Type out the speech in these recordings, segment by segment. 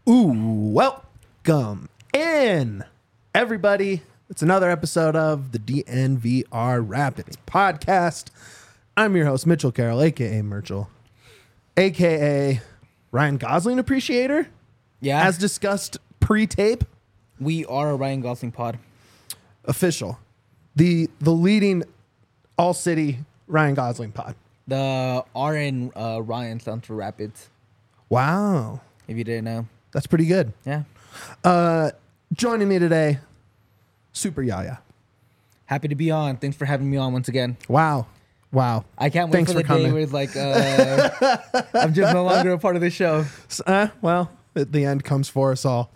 Welcome in, everybody. It's another episode of the DNVR Rapids podcast. I'm your host, Mitchell Carroll, a.k.a. Merchel, a.k.a. Ryan Gosling appreciator. Yeah. As discussed pre-tape. We are a Ryan Gosling pod. Official. The leading all-city Ryan Gosling pod. The RN Ryan stands for Rapids, Wow. if you didn't know. That's pretty good. Yeah. Joining me today, Super Yaya. Happy to be on. Thanks for having me on once again. Wow. I can't wait Thanks for the for coming. day where it's like, I'm just no longer a part of this show. Well, the end comes for us all.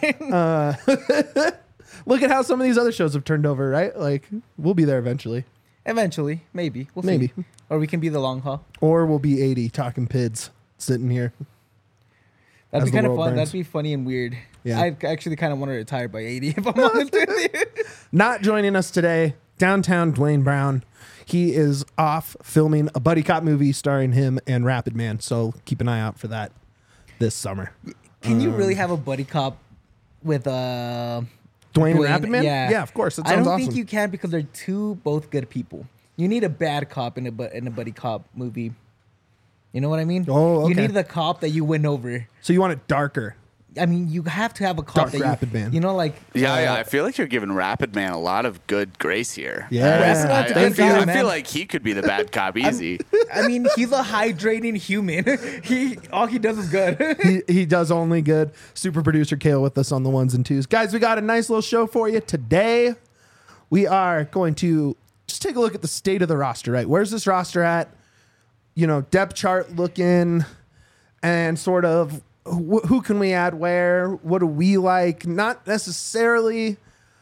Look at how some of these other shows have turned over, right? Like, we'll be there eventually. Eventually. Maybe. We'll Maybe. see. Or we can be the long haul. Or we'll be 80 talking PIDs sitting here. That'd As be the kind of world fun. burns. That'd be funny and weird. Yeah. I actually kind of want to retire by 80, if I'm honest with you. Not joining us today, downtown Dwayne Brown. He is off filming a buddy cop movie starring him and Rapid Man. So keep an eye out for that this summer. Can you really have a buddy cop with Dwayne and Rapid Man? Yeah. Yeah, of course. That I sounds don't awesome. think you can because they're both good people. You need a bad cop in a buddy cop movie. You know what I mean? Oh, You okay. need the cop that you win over. So you want it darker. I mean, you have to have a cop Dark that Rapid Man. You know, like Yeah, I feel like you're giving Rapid Man a lot of good grace here. Yeah. Rapid Man's a good guy, I man. feel like he could be the bad cop easy. I mean, he's a hydrating human. All he does is good. He does only good. Super producer Kale with us on the ones and twos. Guys, we got a nice little show for you today. We are going to just take a look at the state of the roster, right? Where's this roster at? You know, depth chart looking and sort of who can we add where? What do we like? Not necessarily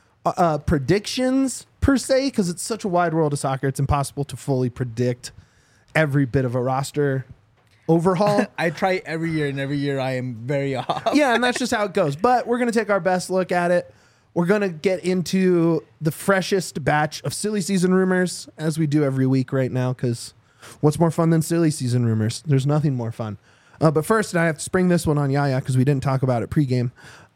predictions per se, because it's such a wide world of soccer. It's impossible to fully predict every bit of a roster overhaul. I try every year, and every year I am very off. Yeah, and that's just how it goes. But we're going to take our best look at it. We're going to get into the freshest batch of silly season rumors, as we do every week right now, because what's more fun than silly season rumors? There's nothing more fun. But first, and I have to spring this one on Yaya because we didn't talk about it pregame.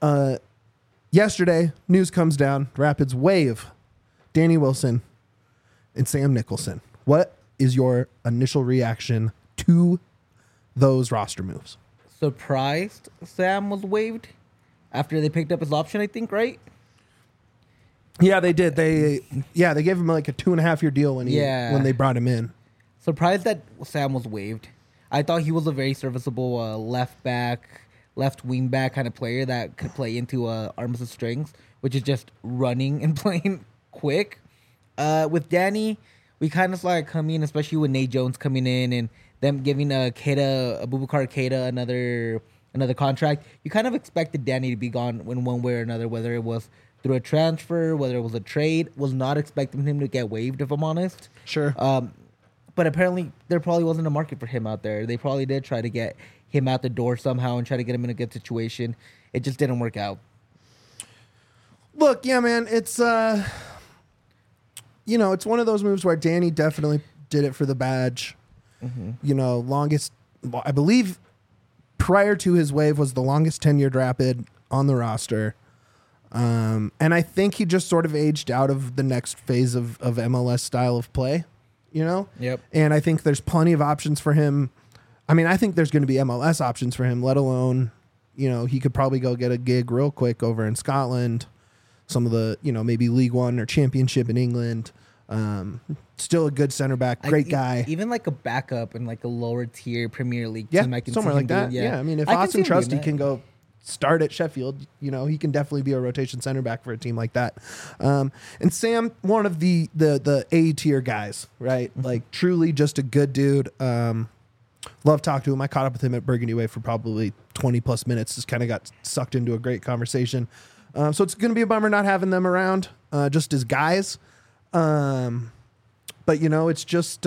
Yesterday, news comes down. Rapids waive Danny Wilson and Sam Nicholson. What is your initial reaction to those roster moves? Surprised Sam was waived after they picked up his option, I think, right? Yeah, they did. They gave him like a 2.5 year deal when when they brought him in. Surprised that Sam was waived. I thought he was a very serviceable left wing back kind of player that could play into arms and strings, which is just running and playing quick. With Danny, we kind of saw it coming, especially with Nate Jones coming in and them giving Abubakar Keita another contract. You kind of expected Danny to be gone in one way or another, whether it was through a transfer, whether it was a trade. Was not expecting him to get waived, if I'm honest. Sure. But apparently, there probably wasn't a market for him out there. They probably did try to get him out the door somehow and try to get him in a good situation. It just didn't work out. Look, yeah, man, it's it's one of those moves where Danny definitely did it for the badge. Mm-hmm. You know, I believe prior to his wave was the longest tenured Rapid on the roster. And I think he just sort of aged out of the next phase of MLS style of play, you know? Yep. And I think there's plenty of options for him. I mean, I think there's going to be MLS options for him, let alone, he could probably go get a gig real quick over in Scotland, some of the, maybe League One or Championship in England. Still a good center back, great guy. Even like a backup in like a lower tier Premier League Yeah, team. I can somewhere see like him that. doing, Yeah, I mean, if I can Austin see him doing Trusty that. can go start at Sheffield, he can definitely be a rotation center back for a team like that. And Sam, one of the A tier guys, right? Mm-hmm. Like Truly just a good dude. Love talking to him. I caught up with him at Burgundy Way for probably 20 plus minutes. Just kind of got sucked into a great conversation. So it's going to be a bummer not having them around just as guys. But it's just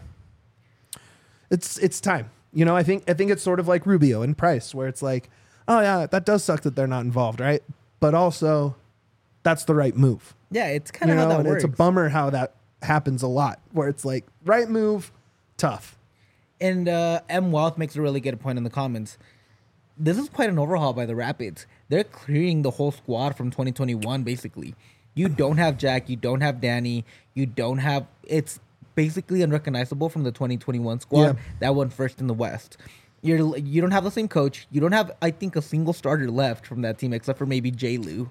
it's time. I think it's sort of like Rubio and Price, where it's like, oh yeah, that does suck that they're not involved, right? But also, that's the right move. Yeah, it's kind of how that and works. it's a bummer how that happens a lot, where it's like right move, tough. And M. Wealth makes a really good point in the comments. this is quite an overhaul by the Rapids. They're clearing the whole squad from 2021, basically. You don't have Jack, you don't have Danny, you don't have... It's basically unrecognizable from the 2021 squad Yeah. that went first in the West. You don't have the same coach. You don't have, I think, a single starter left from that team except for maybe J. Lou.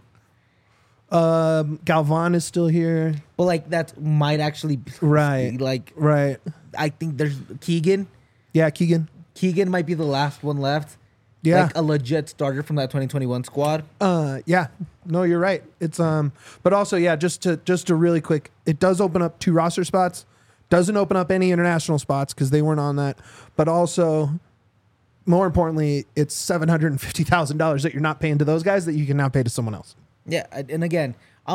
Galvan is still here. But, like, that might actually be... Right. Like, Right. I think there's Keegan. Yeah, Keegan. Keegan might be the last one left. Yeah. Like a legit starter from that 2021 squad. Yeah. No, you're right. It's but also, yeah, just to really quick, it does open up 2 roster spots. Doesn't open up any international spots because they weren't on that. But also, more importantly, it's $750,000 that you're not paying to those guys that you can now pay to someone else. Yeah, and again,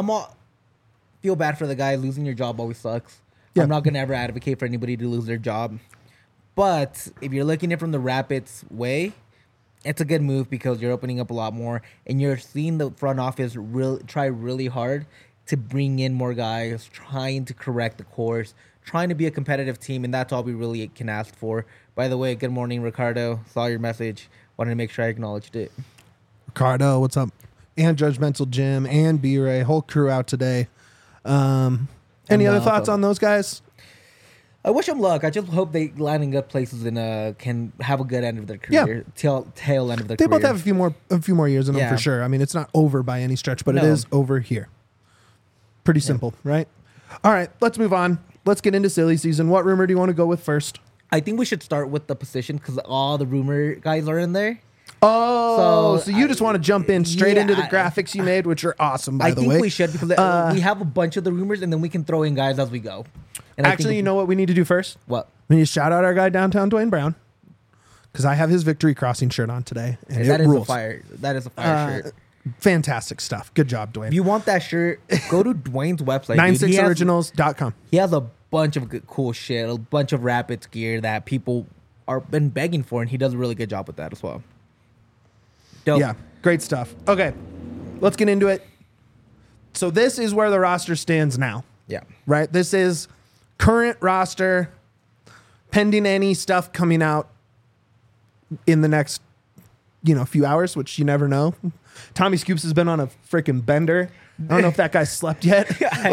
feel bad for the guy. Losing your job always sucks. Yeah. I'm not gonna ever advocate for anybody to lose their job. But if you're looking at it from the Rapids way, it's a good move because you're opening up a lot more, and you're seeing the front office try really hard to bring in more guys, trying to correct the course, trying to be a competitive team, and that's all we really can ask for. By the way, good morning, Ricardo. Saw your message. Wanted to make sure I acknowledged it. Ricardo, what's up? And Judgmental Jim and B-Ray, whole crew out today. Any other thoughts on those guys? I wish them luck. I just hope they land in good places and can have a good end of their career. Tail end of their They career. both have a few more years in them Yeah. for sure. I mean, it's not over by any stretch, but it No. is over here. Pretty simple, right? All right, let's move on. Let's get into silly season. What rumor do you want to go with first? I think we should start with the position because all the rumor guys are in there. Oh, so you I- just want to jump in straight yeah, into the I- graphics you made, which are awesome, by I the think way. we should because we have a bunch of the rumors and then we can throw in guys as we go. And I Actually, think you know what we need to do first? what? We need to shout out our guy downtown, Dwayne Brown, because I have his victory crossing shirt on today, and That it is rules. a fire. That is a fire shirt. Fantastic stuff. Good job, Dwayne. If you want that shirt, go to Dwayne's website. dude. He has- 96originals.com. He has a bunch of good, cool shit, a bunch of Rapids gear that people are been begging for, and he does a really good job with that as well. Dope. Yeah, great stuff. Okay, let's get into it. So this is where the roster stands now, Yeah. right? This is current roster, pending any stuff coming out in the next, few hours, which you never know. Tommy Scoops has been on a freaking bender. I don't know if that guy slept yet.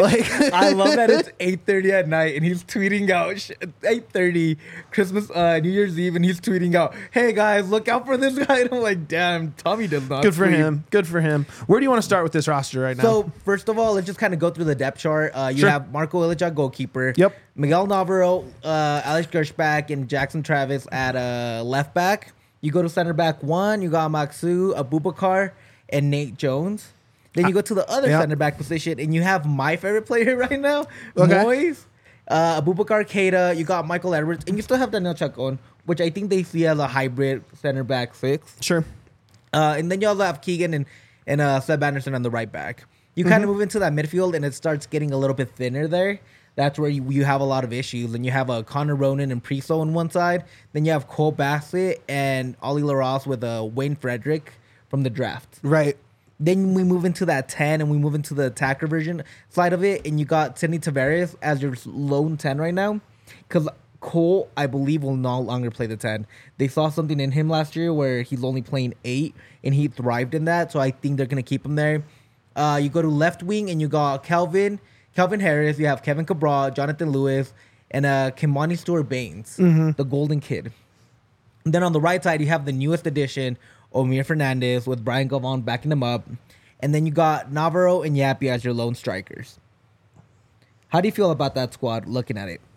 I love that it's 8:30 at night and he's tweeting out 8:30 Christmas New Year's Eve and he's tweeting out, "Hey guys, look out for this guy." And I'm like, damn, Tommy does not. Good for sleep. him. Good for him. Where do you want to start with this roster right now? So first of all, let's just kind of go through the depth chart. You Sure. have Marco Ilic, goalkeeper. Yep. Miguel Navarro, Alex Gershback, and Jackson Travis at left back. You go to center back 1. You got Maxu, Abubakar, and Nate Jones. Then you go to the other Yep. center back position, and you have my favorite player right now, Okay. Moyes, Abubakar Keita. You got Michael Edwards, and you still have Daniel Chacon, which I think they see as a hybrid center back 6. Sure. And then you also have Keegan and Seb Anderson on the right back. You kind of move into that midfield, and it starts getting a little bit thinner there. That's where you have a lot of issues. And you have Connor Ronan and Priso on one side. Then you have Cole Bassett and Ollie LaRosse with Wayne Frederick from the draft. Right. Then we move into that 10 and we move into the attacker version side of it. And you got Sidney Tavares as your lone 10 right now. Because Cole, I believe, will no longer play the 10. They saw something in him last year where he's only playing 8 and he thrived in that. So I think they're going to keep him there. You go to left wing and you got Calvin Harris. You have Kevin Cabral, Jonathan Lewis, and Kimani Stewart-Baines, the golden kid. And then on the right side, you have the newest addition, Omir Fernandez, with Brian Galvan backing him up. And then you got Navarro and Yappy as your lone strikers. How do you feel about that squad looking at it?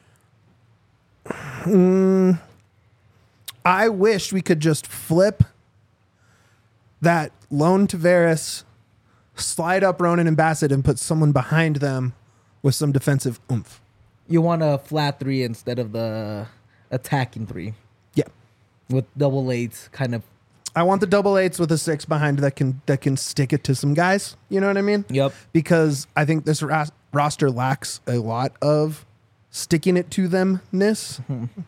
I wish we could just flip that lone Tavares, slide up Ronan and Bassett, and put someone behind them with some defensive oomph. You want a flat 3 instead of the attacking 3 Yeah. with double 8s kind of. I want the double 8s with a 6 behind that can stick it to some guys. You know what I mean? Yep. Because I think this roster lacks a lot of sticking it to themness.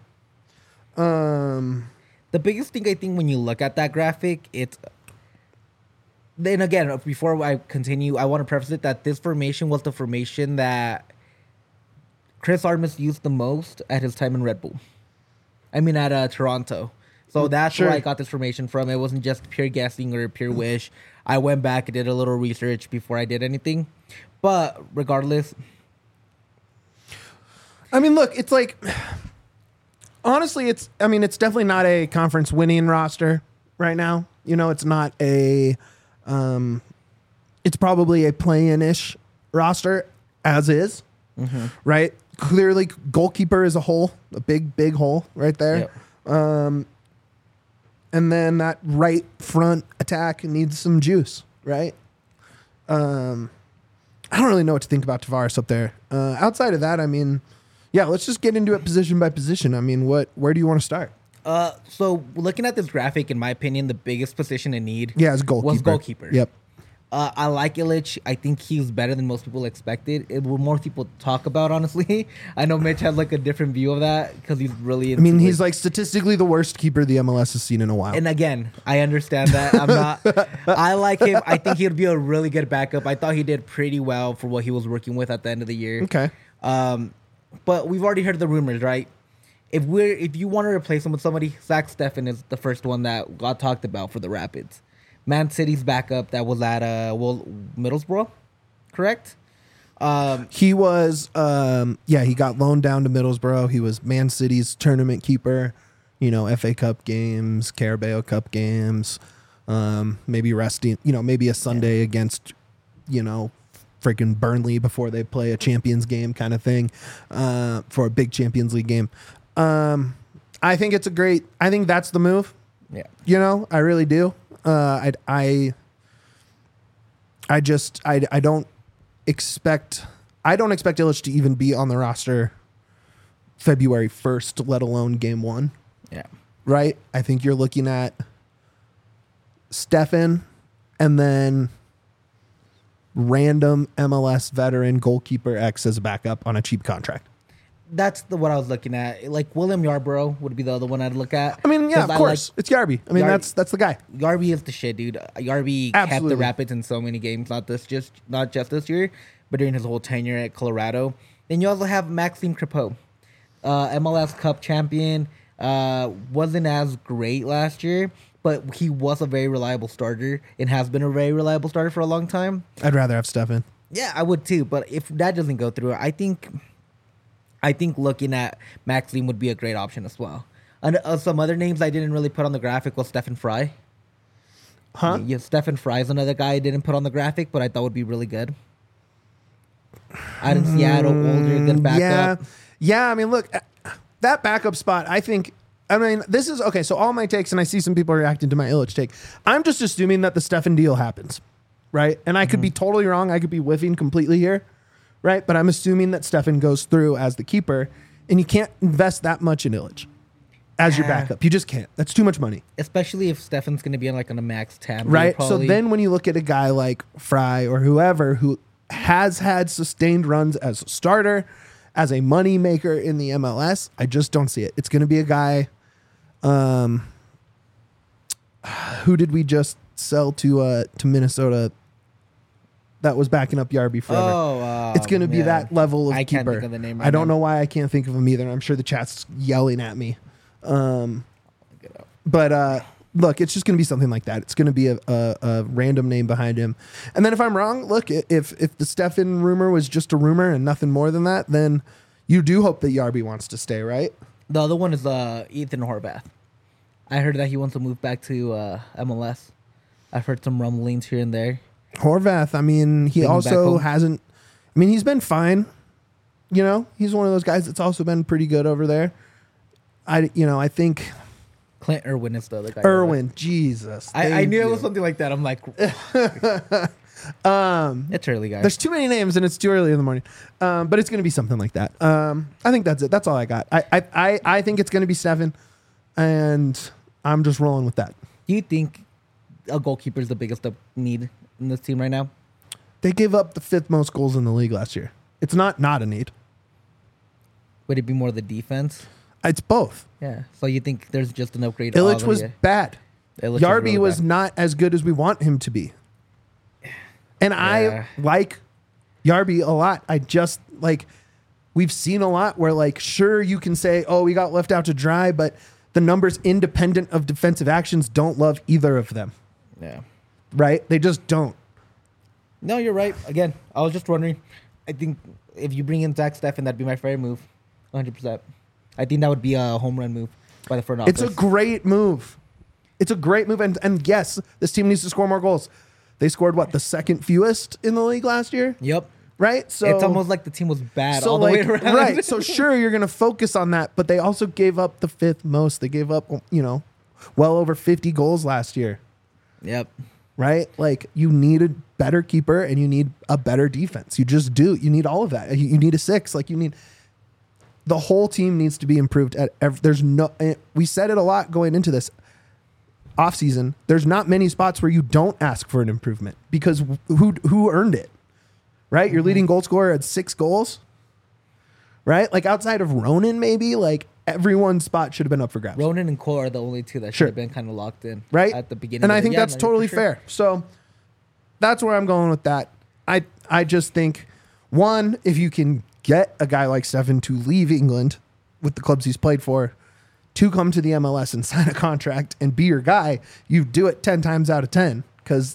The biggest thing I think when you look at that graphic, it's. Then again, before I continue, I want to preface it that this formation was the formation that Chris Armas used the most at his time in Red Bull. I mean, at Toronto. So that's Sure. where I got this information from. It wasn't just pure guessing or pure wish. I went back and did a little research before I did anything. But regardless, I mean, look, it's like honestly, it's definitely not a conference winning roster right now. You know, it's not a it's probably a play-in-ish roster as is. Right? Clearly goalkeeper is a hole, a big hole right there. Yep. And then that right front attack needs some juice, right? I don't really know what to think about Tavares up there. Outside of that, I mean, yeah, let's just get into it position by position. I mean, where do you want to start? so looking at this graphic, in my opinion, the biggest position in need Yeah, it's goalkeeper. was goalkeeper. Yep. I like Illich. I think he's better than most people expected. It will more people talk about, honestly. I know Mitch has like a different view of that because he's really. I mean, he's like statistically the worst keeper the MLS has seen in a while. And again, I understand that. I'm not. I like him. I think he'd be a really good backup. I thought he did pretty well for what he was working with at the end of the year. Okay. But we've already heard the rumors, right? If you want to replace him with somebody, Zach Steffen is the first one that got talked about for the Rapids. Man City's backup that was at Middlesbrough, correct? He was, he got loaned down to Middlesbrough. He was Man City's tournament keeper, you know, FA Cup games, Carabao Cup games, maybe resting, you know, maybe a Sunday against, you know, freaking Burnley before they play a Champions game kind of thing, for a big Champions League game. I think I think that's the move. Yeah. You know, I really do. I don't expect Illich to even be on the roster February 1st, let alone game 1. Yeah. Right? I think you're looking at Steffen and then random MLS veteran goalkeeper X as a backup on a cheap contract. That's what I was looking at. Like William Yarbrough would be the other one I'd look at. I mean, yeah, of 'Cause course. It's Yarby. I mean, that's the guy. Yarby is the shit, dude. Yarby kept Absolutely. the Rapids in so many games, not just this year, but during his whole tenure at Colorado. Then you also have Maxime Crepeau, MLS Cup champion. Wasn't as great last year, but he was a very reliable starter and has been a very reliable starter for a long time. I'd rather have Steffen. Yeah, I would too. But if that doesn't go through, I think looking at Maxime would be a great option as well. And some other names I didn't really put on the graphic was Stephen Fry. Huh? Yeah, Stephen Fry is another guy I didn't put on the graphic, but I thought would be really good. Out in Seattle, older, good backup. Yeah. I mean, look, that backup spot, this is okay. So all my takes, and I see some people reacting to my Illich take. I'm just assuming that the Steffen deal happens, right? And I could be totally wrong. I could be whiffing completely here, right? But I'm assuming that Steffen goes through as the keeper, and you can't invest that much in Illich as your backup. You just can't. That's too much money. Especially if Stephen's going to be on a max tab. Right. So then when you look at a guy like Fry or whoever who has had sustained runs as a starter, as a money maker in the MLS, I just don't see it. It's going to be a guy. Who did we just sell to Minnesota that was backing up Yarby forever? It's going to be that level of I keeper. can't think of the name I right don't now. know why I can't think of him either. I'm sure the chat's yelling at me. But look, it's just going to be something like that. It's going to be a random name behind him. And then if I'm wrong, look, if the Steffen rumor was just a rumor and nothing more than that, then you do hope that Yarby wants to stay, right? The other one is Ethan Horvath. I heard that he wants to move back to MLS. I've heard some rumblings here and there. Horvath, I mean, he Bring him back also home. hasn't. I mean, he's been fine. You know, he's one of those guys that's also been pretty good over there. I think Clint Irwin is the other guy. Irwin, Jesus. I thank knew it you. was something like that. I'm like, it's early, guys. There's too many names and it's too early in the morning. But it's going to be something like that. I think that's it. That's all I got. I think it's going to be 7, and I'm just rolling with that. Do you think a goalkeeper is the biggest need in this team right now? They gave up the 5th most goals in the league last year. It's not a need. Would it be more the defense? It's both. Yeah. So you think there's just an upgrade? Illich was bad. Illich Yarby really was bad. not as good as we want him to be. And Yeah. I like Yarby a lot. I just we've seen a lot where sure you can say, oh, we got left out to dry, but the numbers independent of defensive actions don't love either of them, Yeah. right? They just don't. No, you're right. Again, I was just wondering. I think if you bring in Zach Steffen, that'd be my favorite move. 100%. I think that would be a home run move by the front office. It's a great move. It's a great move. And yes, this team needs to score more goals. They scored, what, the second fewest in the league last year? Yep. Right? So It's almost like the team was bad all the way around. Right. So sure, you're going to focus on that, but they also gave up the fifth most. They gave up, well over 50 goals last year. Yep. Right? Like, you need a better keeper and you need a better defense. You just do. You need all of that. You need a 6. Like, you need the whole team needs to be improved we said it a lot going into this offseason. There's not many spots where you don't ask for an improvement because who earned it? Right? Your leading goal scorer had 6 goals. Right? Like, outside of Ronan, maybe, like, everyone's spot should have been up for grabs. Ronan and Cole are the only two that should have been kind of locked in Right? at the beginning. And of I the think year. that's totally fair. So that's where I'm going with that. I just think, one, if you can get a guy like Steffen to leave England with the clubs he's played for, to come to the MLS and sign a contract and be your guy, you do it 10 times out of 10 because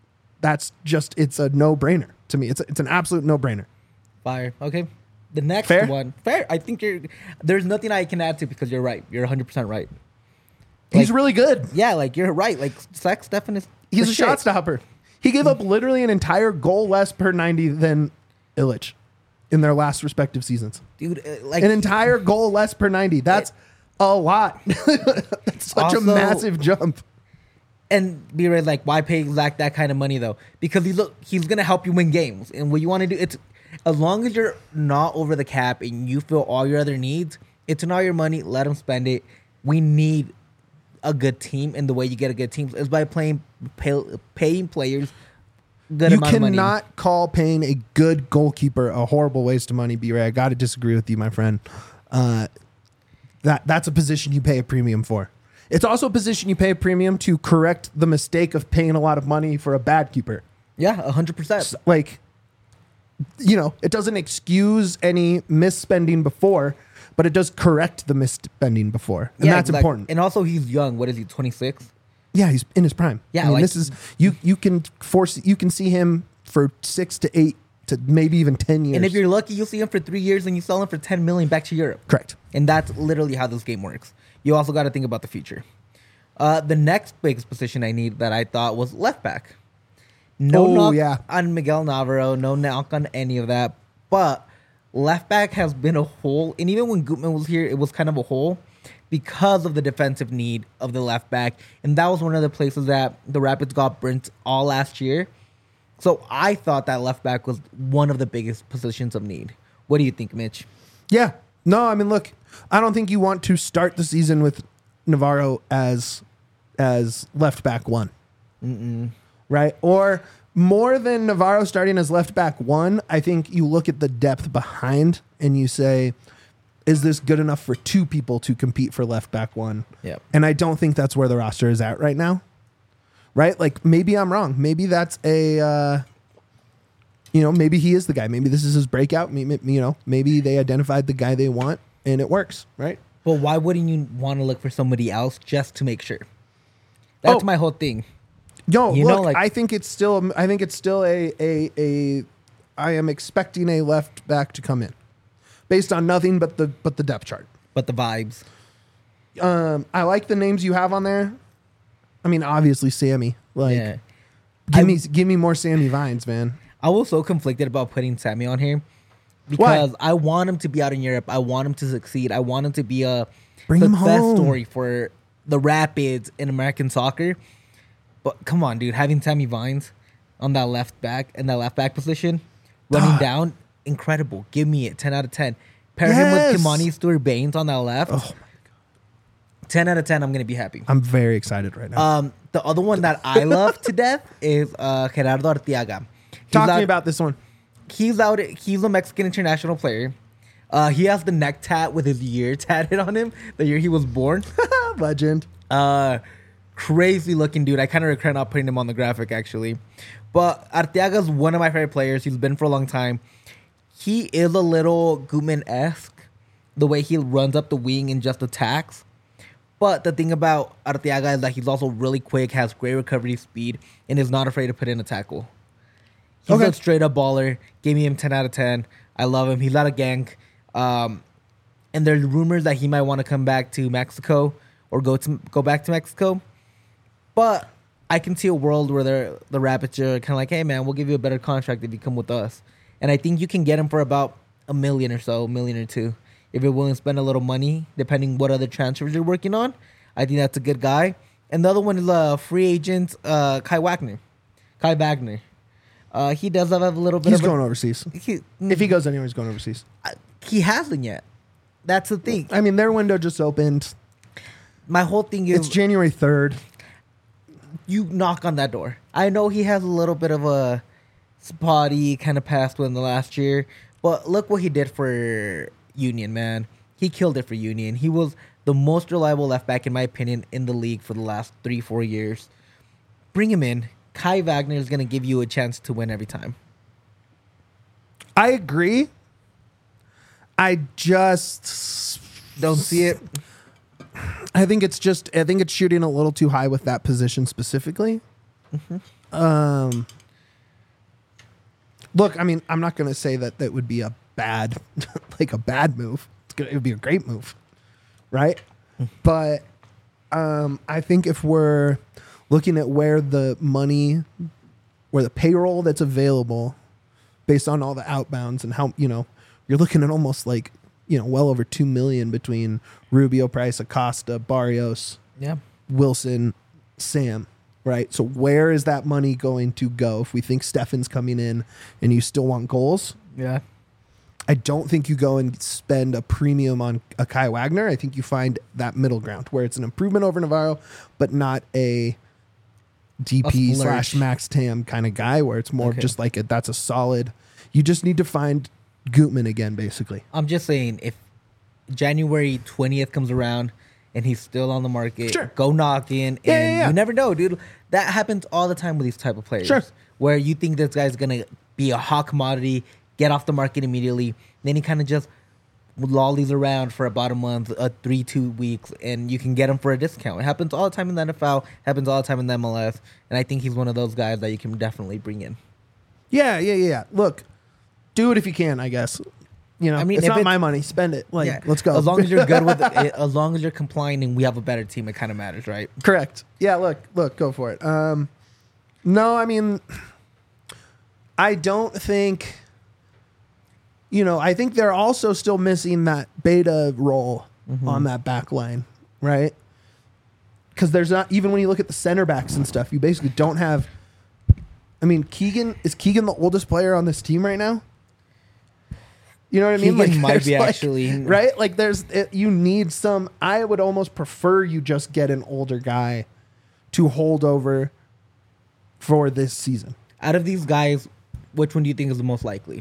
it's a no-brainer to me. It's an absolute no-brainer. Fire. Okay. The next Fair? one. Fair. I think there's nothing I can add to because you're right. You're 100% right. He's Like- really good. Yeah, like you're right. Like Zach Steffen is He's the a shit. shot stopper. He gave up literally an entire goal less per 90 than Illich in their last respective seasons. Dude, like An entire goal less per 90. That's a lot. That's such a Also- massive jump. and be right, like, why pay Zach that kind of money though? Because he's gonna help you win games. And what you want to do, it's as long as you're not over the cap and you fill all your other needs, it's not your money. Let him spend it. We need a good team, and the way you get a good team is by paying players good You amount of money. cannot call paying a good goalkeeper a horrible waste of money, B-Ray. I got to disagree with you, my friend. That's a position you pay a premium for. It's also a position you pay a premium to correct the mistake of paying a lot of money for a bad keeper. Yeah, 100%. Like, it doesn't excuse any misspending before, but it does correct the misspending before. And that's exactly. important. And also, he's young. What is he? 26. Yeah, he's in his prime. Yeah, I mean, like- this is you can see him for 6 to 8 to maybe even 10 years. And if you're lucky, you'll see him for 3 years, and you sell him for 10 million back to Europe. correct. And that's literally how this game works. You also got to think about the future. The next biggest position I need that I thought was left back. No Oh, knock yeah. on Miguel Navarro, no knock on any of that. But left back has been a hole. And even when Gutman was here, it was kind of a hole because of the defensive need of the left back. And that was one of the places that the Rapids got burnt all last year. So I thought that left back was one of the biggest positions of need. What do you think, Mitch? Yeah. No, I mean, look, I don't think you want to start the season with Navarro as left back 1. Right? Or more than Navarro starting as left back 1, I think you look at the depth behind and you say, is this good enough for 2 people to compete for left back 1? Yep. And I don't think that's where the roster is at right now. Right? Like, maybe I'm wrong. Maybe that's maybe he is the guy. Maybe this is his breakout. Maybe they identified the guy they want and it works, right? But why wouldn't you want to look for somebody else just to make sure? That's my whole thing. Yo, You look, know, like- I think it's still a I am expecting a left back to come in based on nothing but the depth chart. But the vibes. I like the names you have on there. I mean, obviously Sammy. Like, Yeah. give me more Sammy Vines, man. I was so conflicted about putting Sammy on here because I want him to be out in Europe. I want him to succeed. I want him to be a Bring him success home. story for the Rapids in American soccer. But come on, dude, having Sammy Vines on that left back in that left back position, running down, incredible. Give me it. 10 out of 10. Pair him Yes. with Kimani Stewart-Baines on that left. Oh my God. 10 out of 10. I'm gonna be happy. I'm very excited right now. The other one that I love to death is Gerardo Arteaga. Talk to me about this one. He's out. He's a Mexican international player. He has the neck tat with his year tatted on him, the year he was born. Legend. Crazy looking dude. I kind of regret not putting him on the graphic actually. But Arteaga's one of my favorite players. He's been for a long time. He is a little Gutman-esque, the way he runs up the wing and just attacks. But the thing about Arteaga is that he's also really quick, has great recovery speed, and is not afraid to put in a tackle. He's Okay. a straight up baller. Gave me him 10 out of 10. I love him. He's not a gank. And there's rumors that he might want to come back to Mexico or go back to Mexico. But I can see a world where the Rapids are kind of like, hey, man, we'll give you a better contract if you come with us. And I think you can get him for about $1 million or so, $1 million or $2 million. If you're willing to spend a little money, depending what other transfers you're working on, I think that's a good guy. And the other one is a free agent, Kai Wagner. He does have a little bit He's of going overseas. If he goes anywhere, he's going overseas. he hasn't yet. That's the thing. I mean, their window just opened. My whole thing It's is January 3rd. you knock on that door. I know he has a little bit of a spotty kind of past within the last year, but look what he did for Union, man. He killed it for Union. He was the most reliable left back, in my opinion, in the league for the last 3-4 years. Bring him in. Kai Wagner is going to give you a chance to win every time. I agree. I just Don't see it. I think it's shooting a little too high with that position specifically. Look, I mean, I'm not going to say that would be a bad, like a bad move. It would be a great move, right? But I think if we're looking at where the payroll that's available, based on all the outbounds and how you're looking at almost like well over $2 million between Rubio, Price, Acosta, Barrios, Yeah. Wilson, Sam, right? So where is that money going to go if we think Stefan's coming in and you still want goals? Yeah. I don't think you go and spend a premium on a Kai Wagner. I think you find that middle ground where it's an improvement over Navarro, but not a DP splurge. / Max Tam kind of guy where it's more Okay. just like that's a solid. You just need to find Gutman again, basically. I'm just saying, if January 20th comes around and he's still on the market, Sure. go knock in. And Yeah. you never know, dude. That happens all the time with these type of players. Sure. Where you think this guy's going to be a hot commodity, get off the market immediately. Then he kind of just lollies around for about a month, 2 weeks, and you can get him for a discount. It happens all the time in the NFL, happens all the time in the MLS. And I think he's one of those guys that you can definitely bring in. Yeah. Look, do it if you can, I guess. I mean, it's if not it's- my money. Spend it. Like, Yeah. let's go. As long as you're good with it, as long as you're complying and we have a better team, it kind of matters, right? Correct. Yeah, look, go for it. No, I mean, I don't think, I think they're also still missing that beta role on that back line, right? Because there's not, even when you look at the center backs and stuff, you basically don't have, I mean, is Keegan the oldest player on this team right now? You know what I mean? Keegan might there's be actually. right? Like you need some, I would almost prefer you just get an older guy to hold over for this season. Out of these guys, which one do you think is the most likely?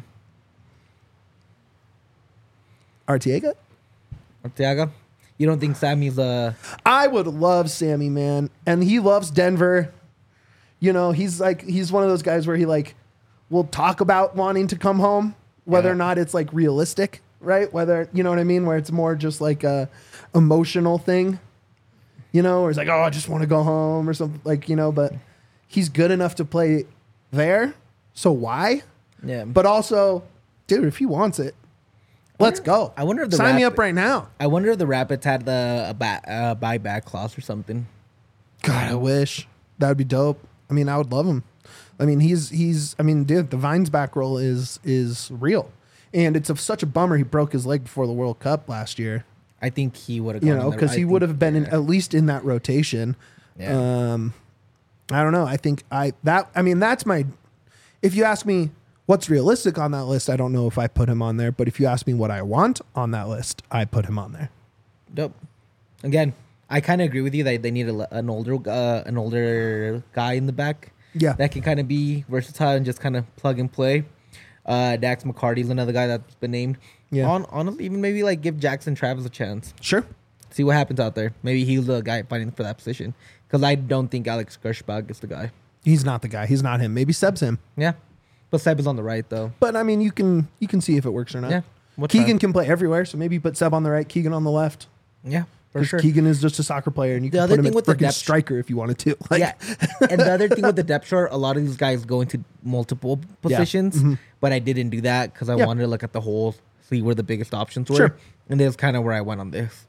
Arteaga? Arteaga? You don't think Sammy's I would love Sammy, man. And he loves Denver. He's one of those guys where he will talk about wanting to come home, whether Yeah. or not it's realistic, right? Whether, you know what I mean? Where it's more just like a emotional thing, or it's like, oh, I just want to go home or something but he's good enough to play there. So why? yeah. But also, dude, if he wants it, let's go. I wonder if the sign me Rapid- up right now. I wonder if the Rapids had a buyback clause or something. God, I wish that would be dope. I mean, I would love him. I mean, he's. I mean, dude, the Vines back roll is real, and it's such a bummer he broke his leg before the World Cup last year. I think he would have. Because he would have been at least in that rotation. Yeah. I don't know. I think that's my. If you ask me what's realistic on that list, I don't know if I put him on there. But if you ask me what I want on that list, I put him on there. Dope. Again, I kind of agree with you that they need an older guy in the back. Yeah. That can kind of be versatile and just kind of plug and play. Dax McCarty's another guy that's been named. Yeah. Honestly, even maybe give Jackson Travis a chance. Sure. See what happens out there. Maybe he's the guy fighting for that position. Because I don't think Alex Gershbach is the guy. He's not the guy. He's not him. Maybe Seb's him. Yeah. But Seb is on the right, though. But I mean, you can see if it works or not. Yeah. We'll Keegan try. can play everywhere, so maybe you put Seb on the right, Keegan on the left. Yeah. For 'Cause sure. Keegan is just a soccer player, and you The can other put him thing at with the freaking depth- striker if you wanted to. Like, Yeah, and the other thing with the depth chart, a lot of these guys go into multiple positions, but I didn't do that because I Yeah. wanted to look at the whole, see where the biggest options were, Sure. and that's kind of where I went on this.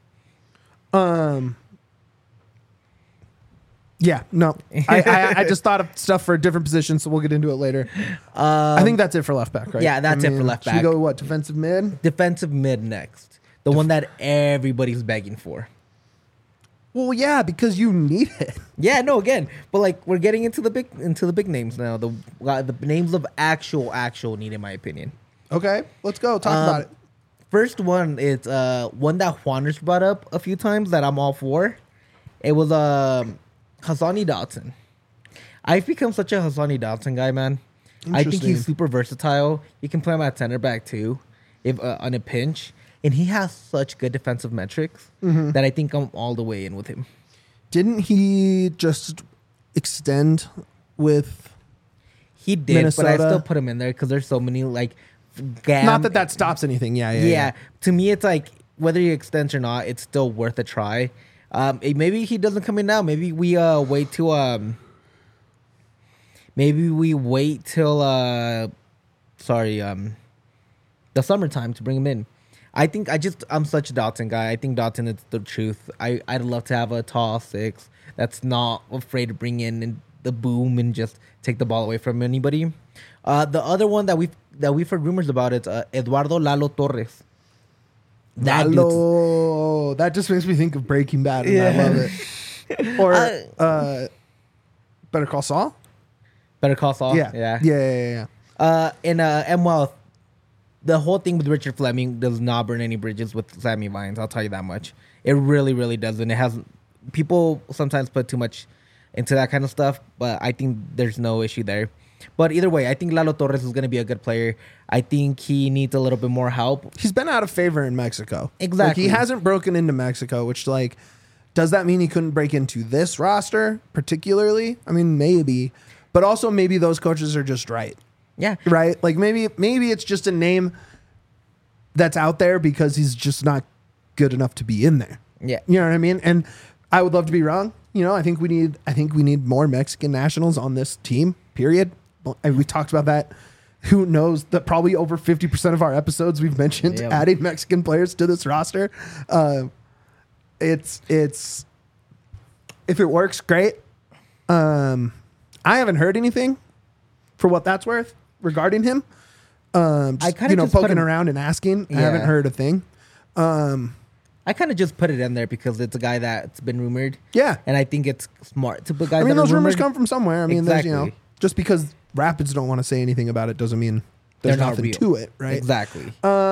Yeah, no. I just thought of stuff for different positions, so we'll get into it later. I think that's it for left back, right? yeah, that's it for left Should we back. go, what, defensive mid? Defensive mid next, the one that everybody's begging for. Well, yeah, because you need it. Yeah, no, again, but like we're getting into the big names now. The names of actual need, in my opinion. Okay, let's go. Talk about it. First one is one that Juaner's brought up a few times that I'm all for. It was Hassani Dotson. I've become such a Hassani Dotson guy, man. I think Interesting. he's super versatile. You can play him at center back too, if on a pinch, and he has such good defensive metrics that I think I'm all the way in with him. Didn't he just extend with... He did, but I Minnesota? still put him in there because there's so many like. Not that stops anything. Yeah. To me, it's like whether he extends or not, it's still worth a try. Maybe he doesn't come in now. Maybe we wait till the summertime to bring him in. I'm such a Dotson guy. I think Dotson is the truth. I'd love to have a tall six that's not afraid to bring in the boom and just take the ball away from anybody. The other one that we've heard rumors about is Eduardo Lalo Torres. That dude's- Lalo. That just makes me think of Breaking Bad, and I love it. Or Better Call Saul? Better Call Saul. Yeah. And well, the whole thing with Richard Fleming does not burn any bridges with Sammy Vines. I'll tell you that much. It really, really doesn't. It has people sometimes put too much into that kind of stuff, but I think there's no issue there. But either way, I think Lalo Torres is going to be a good player. I think he needs a little bit more help. He's been out of favor in Mexico. Exactly. Like, he hasn't broken into Mexico, which, like, does that mean he couldn't break into this roster particularly? I mean, maybe. But also maybe those coaches are just right. Yeah. Right? Like, maybe it's just a name that's out there because he's just not good enough to be in there. Yeah. You know what I mean? And I would love to be wrong. You know, I think we need more Mexican nationals on this team, period. And we talked about that. Who knows that probably over 50% of our episodes we've mentioned adding Mexican players to this roster. It's if it works, great. I haven't heard anything for what that's worth regarding him. I kind of just put poking him- around and asking. I Yeah. haven't heard a thing. I kind of just put it in there because it's a guy that's been rumored. Yeah. And I think it's smart to put guys. I mean, that are those rumors rumored. come from somewhere. I mean, there's, Exactly. just because Rapids don't want to say anything about it doesn't mean there's They're not nothing real. to it, right? Exactly.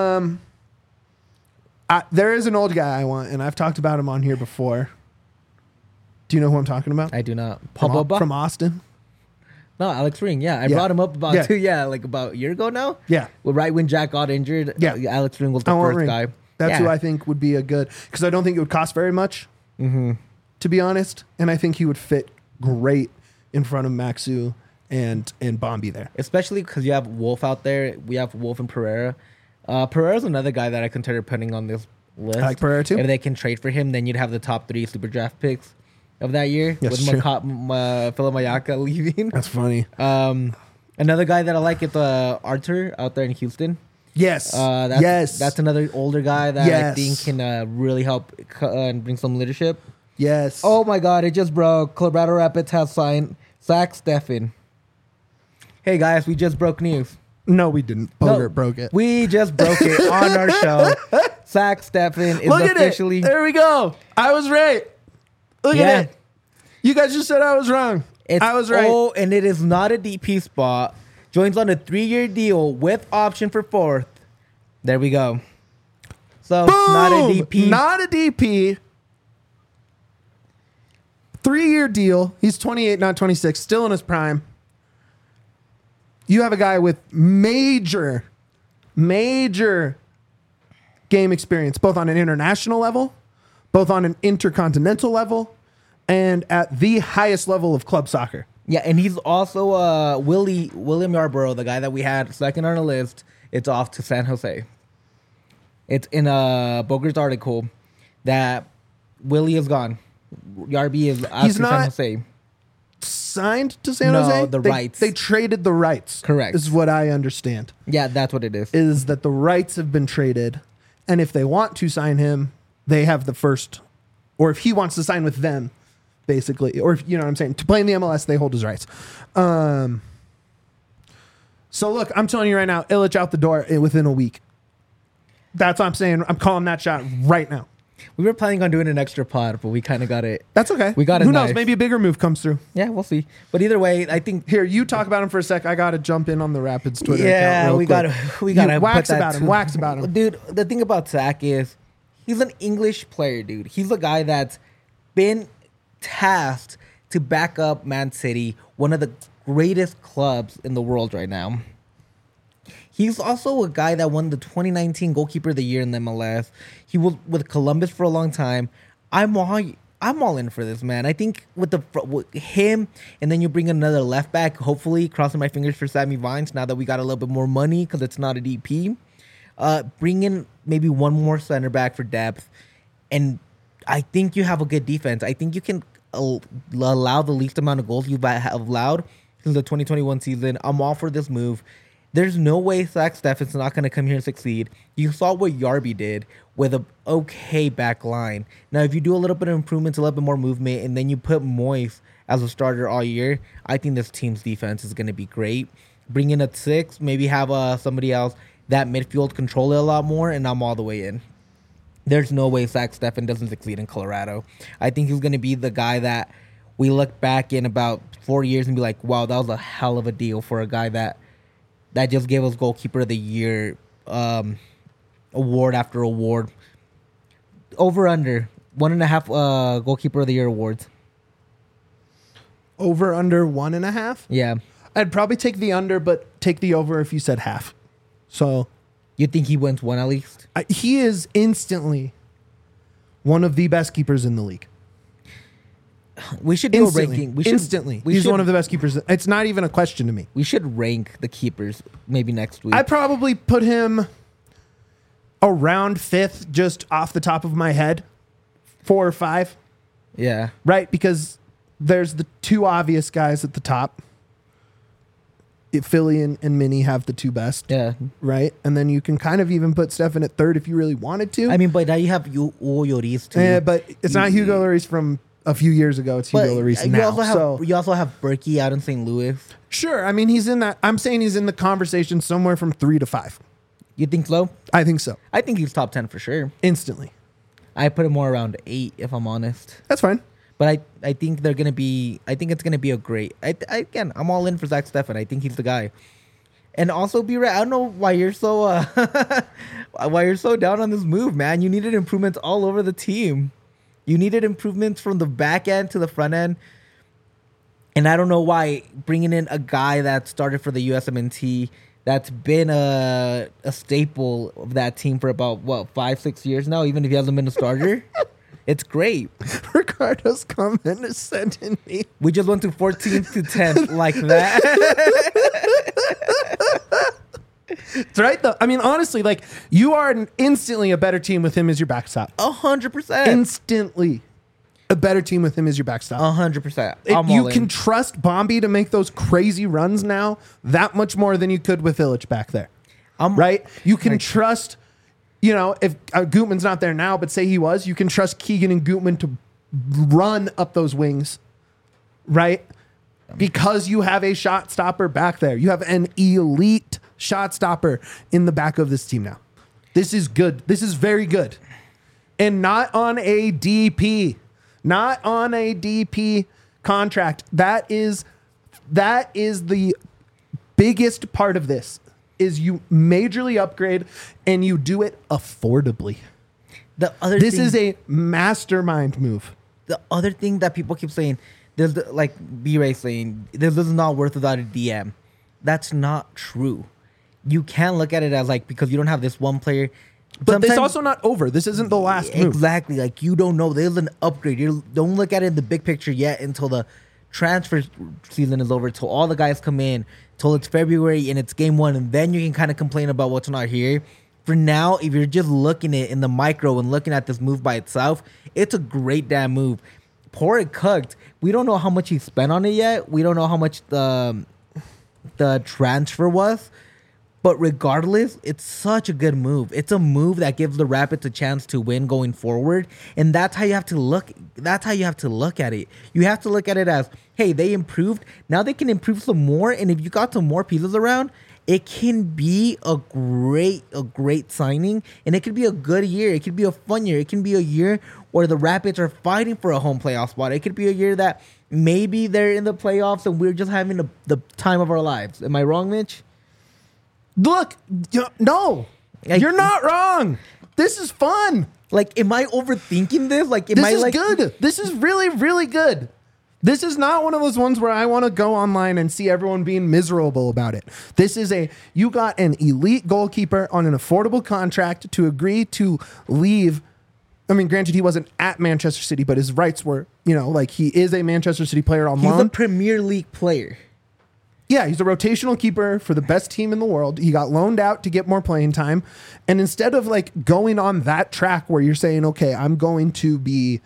There is an old guy I want, and I've talked about him on here before. Do you know who I'm talking about? I do not. From Austin. No, Alex Ring. Yeah, I Yeah. brought him up about Yeah. about a year ago now. Yeah. Well, right when Jack got injured. Yeah. Alex Ring was the I want first Ring. guy. That's Yeah. who I think would be a good, because I don't think it would cost very much, to be honest. And I think he would fit great in front of Maxu and Bombi there. Especially because you have Wolf out there. We have Wolf and Pereira. Pereira's another guy that I consider putting on this list. I like Pereira too. If they can trade for him, then you'd have the top 3 super draft picks of that year Yes, with true. Philip Mayaka leaving. That's funny. Another guy that I like is Arthur out there in Houston. Yes. That's another older guy that I Yes. think can really help and bring some leadership. Yes. Oh my God, it just broke. Colorado Rapids has signed Zach Steffen. Hey guys, we just broke news. No, we didn't. Bogart broke it. We just broke it on our show. Zach Steffen is Look at officially. it. There we go. I was right. Look Yeah. at it. You guys just said I was wrong. I was right. Oh, and it is not a DP spot. Joins on a 3-year deal with option for 4th. There we go. So Boom! not a DP. Not a DP. 3-year deal. He's 28, not 26. Still in his prime. You have a guy with major game experience, both on an international level, both on an intercontinental level, and at the highest level of club soccer. Yeah, and he's also William Yarborough, the guy that we had second on the list. It's off to San Jose. It's in Boger's article that Willie is gone. Yarby is He's San not- Jose. Signed to San No, Jose? the They- rights. They traded the rights. Correct. Is what I understand. Yeah, that's what it is. Is that the rights have been traded, and if they want to sign him, they have the first, or if he wants to sign with them, basically, or if you know what I'm saying, to play in the MLS, they hold his rights. So look, I'm telling you right now, Illich out the door within a week. That's what I'm saying. I'm calling that shot right now. We were planning on doing an extra pod, but we kind of got it. That's okay. We got it Who knows? nice. Maybe a bigger move comes through. Yeah, we'll see. But either way, I think. Here, you talk about him for a sec. I got to jump in on the Rapids Twitter Yeah, account. we got gotta wax put that about him. too. Wax about him. Dude, the thing about Zach is he's an English player, dude. He's a guy that's been tasked to back up Man City, one of the greatest clubs in the world right now. He's also a guy that won the 2019 Goalkeeper of the Year in the MLS. He was with Columbus for a long time. I'm all in for this, man. I think with him, and then you bring another left back. Hopefully, crossing my fingers for Sammy Vines. Now that we got a little bit more money because it's not a DP, bring in maybe one more center back for depth, and I think you have a good defense. I think you can allow the least amount of goals you've allowed since the 2021 season. I'm all for this move. There's no way Zach Steffen's not going to come here and succeed. You saw what Yarby did with a okay back line. Now, if you do a little bit of improvements, a little bit more movement, and then you put Moise as a starter all year, I think this team's defense is going to be great. Bring in a 6, maybe have somebody else that midfield control it a lot more, and I'm all the way in. There's no way Zach Steffen doesn't succeed in Colorado. I think he's going to be the guy that we look back in about 4 years and be like, wow, that was a hell of a deal for a guy that just gave us Goalkeeper of the Year award after award. Over under 1.5 Goalkeeper of the Year awards. Over under 1.5. Yeah. I'd probably take the under, but take the over if you said half. So You think he wins one at least? he is instantly one of the best keepers in the league. We should do Instantly. a ranking. We should, Instantly. We He's should, one of the best keepers. It's not even a question to me. We should rank the keepers maybe next week. I probably put him around 5th, just off the top of my head. 4 or 5, yeah. right? Because there's the two obvious guys at the top. Philly and Minnie have the two best, Yeah. right? And then you can kind of even put Stefan at 3rd if you really wanted to. I mean, but now you have Hugo Lloris too. Yeah, but it's not Hugo Lloris from a few years ago. It's But Hugo Lloris you now. also have So you also have Berkey out in St. Louis. sure, I mean he's in that. I'm saying he's in the conversation somewhere from 3 to 5. You think so? I think so. I think he's top 10 for sure. Instantly. I put him more around 8 if I'm honest. That's fine. But I think they're gonna be. I think it's gonna be a great. Again, I'm all in for Zach Steffen. I think he's the guy. And also, B-Ray, I don't know why you're so down on this move, man. You needed improvements all over the team. You needed improvements from the back end to the front end. And I don't know why bringing in a guy that started for the USMNT, that's been a staple of that team for about, 5-6 years now, even if he hasn't been a starter. It's great. Ricardo's comment is sending me. We just went to 14th to 10th like that. It's right though. I mean, honestly, like you are instantly a better team with him as your backstop. 100%. Instantly a better team with him as your backstop. 100%. You can trust Bombi to make those crazy runs now that much more than you could with Illich back there. Right? You can trust, if Gutman's not there now, but say he was, you can trust Keegan and Gutman to run up those wings, right? Because you have a shot stopper back there. You have an elite shot stopper in the back of this team now. This is good. This is very good. And not on a DP. Not on a DP contract. That is the biggest part of this, is you majorly upgrade and you do it affordably. This is a mastermind move. The other thing that people keep saying, like B-Ray saying, this is not worth without a DM. That's not true. You can't look at it as like, because you don't have this one player. But this also not over. This isn't the last move. Exactly. Like, you don't know. There's an upgrade. You don't look at it in the big picture yet until the transfer season is over, till all the guys come in, till it's February and it's game 1, and then you can kind of complain about what's not here. for now, if you're just looking at it in the micro and looking at this move by itself, it's a great damn move. Pour it cooked. We don't know how much he spent on it yet. We don't know how much the transfer was. But regardless, it's such a good move. It's a move that gives the Rapids a chance to win going forward. And that's how you have to look. That's how you have to look at it. You have to look at it as, hey, they improved. Now they can improve some more. And if you got some more pieces around, it can be a great signing. And it could be a good year. It could be a fun year. It can be a year where the Rapids are fighting for a home playoff spot. It could be a year that maybe they're in the playoffs and we're just having the time of our lives. Am I wrong, Mitch? Look, no, you're not wrong. This is fun. Like, am I overthinking this? Like, This is good. This is really, really good. This is not one of those ones where I want to go online and see everyone being miserable about it. This is you got an elite goalkeeper on an affordable contract to agree to leave. I mean, granted, he wasn't at Manchester City, but his rights were, like he is a Manchester City player on loan. He's a Premier League player. Yeah, he's a rotational keeper for the best team in the world. He got loaned out to get more playing time. And instead of like going on that track where you're saying, okay, I'm going to be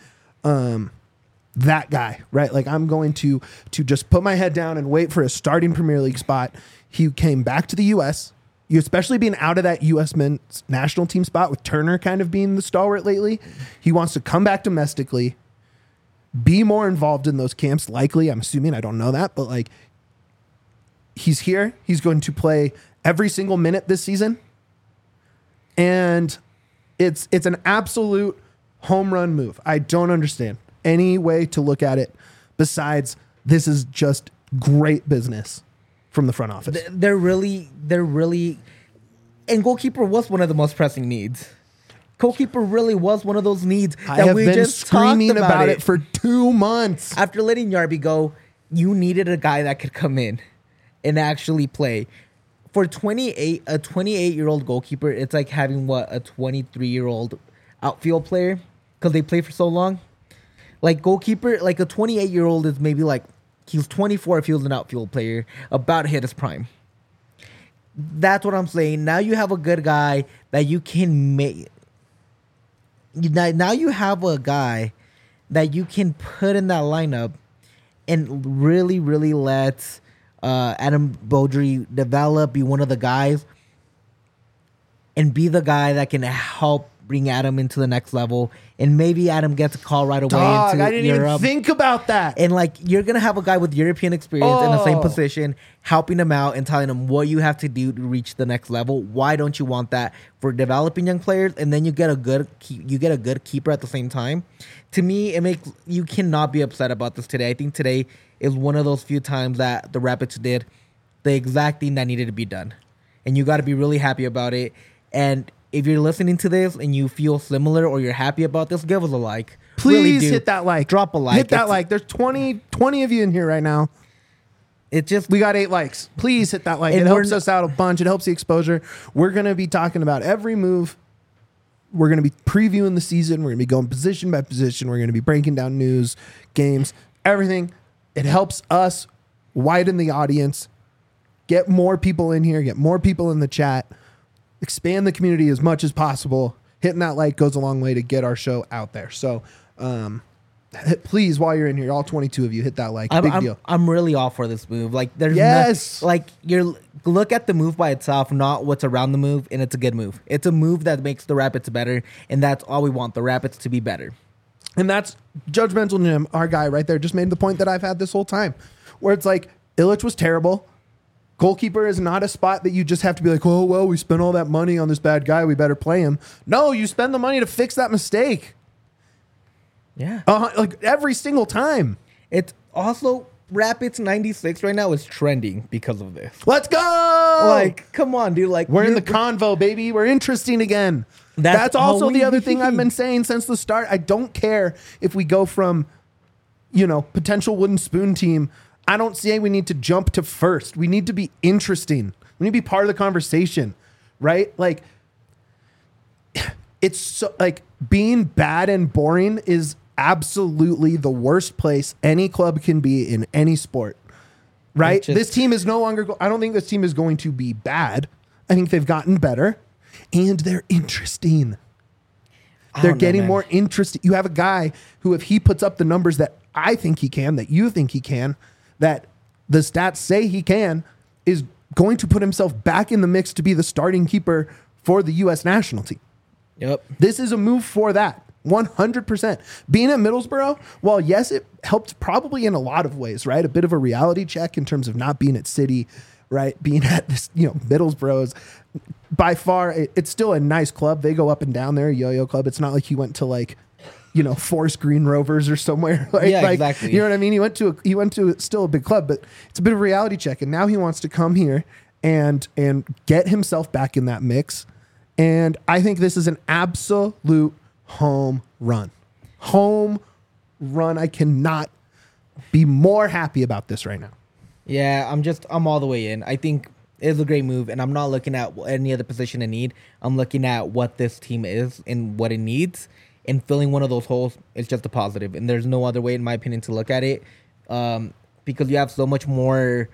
that guy, right? Like I'm going to just put my head down and wait for a starting Premier League spot. He came back to the U.S., you especially being out of that U.S. men's national team spot with Turner kind of being the stalwart lately. He wants to come back domestically, be more involved in those camps, likely. I'm assuming, I don't know that, but like, he's here. He's going to play every single minute this season. And it's an absolute home run move. I don't understand any way to look at it besides this is just great business from the front office. They're really, and goalkeeper was one of the most pressing needs. Goalkeeper really was one of those needs I have been screaming about it for 2 months. After letting Yarby go, you needed a guy that could come in and actually play. For a 28-year-old goalkeeper, it's like having a 23-year-old outfield player because they play for so long. Like goalkeeper, like a 28-year-old is maybe like he's 24 if he was an outfield player, about to hit his prime. That's what I'm saying. Now you have a good guy that you can make. Now you have a guy that you can put in that lineup and really, really let Adam Beaudry develop, be one of the guys, and be the guy that can help bring Adam into the next level. And maybe Adam gets a call right away into I didn't Europe. even think about that. And like you're gonna have a guy with European experience in the same position, helping him out and telling him what you have to do to reach the next level. Why don't you want that for developing young players? And then you get a good keeper at the same time. To me, you cannot be upset about this today. I think today is one of those few times that the Rapids did the exact thing that needed to be done, and you got to be really happy about it. And if you're listening to this and you feel similar or you're happy about this, give us a like. Please really hit that like. Drop a like. Hit that like. There's 20 of you in here right now. We got 8 likes. Please hit that like. It helps us out a bunch. It helps the exposure. We're going to be talking about every move. We're going to be previewing the season. We're going to be going position by position. We're going to be breaking down news, games, everything. It helps us widen the audience, get more people in here, get more people in the chat, expand the community as much as possible. Hitting that like goes a long way to get our show out there. So please, while you're in here, all 22 of you, hit that like. Big deal. I'm really all for this move. Like there's look at the move by itself, not what's around the move, and it's a good move. It's a move that makes the Rapids better, and that's all we want, the Rapids to be better. And that's Judgmental Jim, our guy right there, just made the point that I've had this whole time, where it's like Illich was terrible. Goalkeeper is not a spot that you just have to be like, oh, well, we spent all that money on this bad guy, we better play him. No, you spend the money to fix that mistake. Yeah. Like every single time. It's also Rapids 96 right now is trending because of this. Let's go! Like, come on, dude. Like we're in the convo, baby. We're interesting again. That's also the other thing I've been saying since the start. I don't care if we go from, potential wooden spoon team. I don't say we need to jump to first. We need to be interesting. We need to be part of the conversation, right? Like, it's so, like being bad and boring is absolutely the worst place any club can be in any sport, right? This team is no longer, I don't think this team is going to be bad. I think they've gotten better. and they're interesting. I They're don't know, getting man. more interesting. You have a guy who, if he puts up the numbers that I think he can, that you think he can, that the stats say he can, is going to put himself back in the mix to be the starting keeper for the U.S. national team. Yep. This is a move for that. 100%. Being at Middlesbrough, well, yes, it helped probably in a lot of ways, right? A bit of a reality check in terms of not being at City, right? Being at this, Middlesbrough is by far, it's still a nice club. They go up and down there, Yo-Yo Club. It's not like he went to Forest Green Rovers or somewhere. Exactly. You know what I mean? He went to still a big club, but it's a bit of a reality check. And now he wants to come here and get himself back in that mix. And I think this is an absolute home run. Home run. I cannot be more happy about this right now. Yeah, I'm all the way in. I think it's a great move, and I'm not looking at any other position in need. I'm looking at what this team is and what it needs, and filling one of those holes is just a positive. And there's no other way, in my opinion, to look at it, because you have so much more.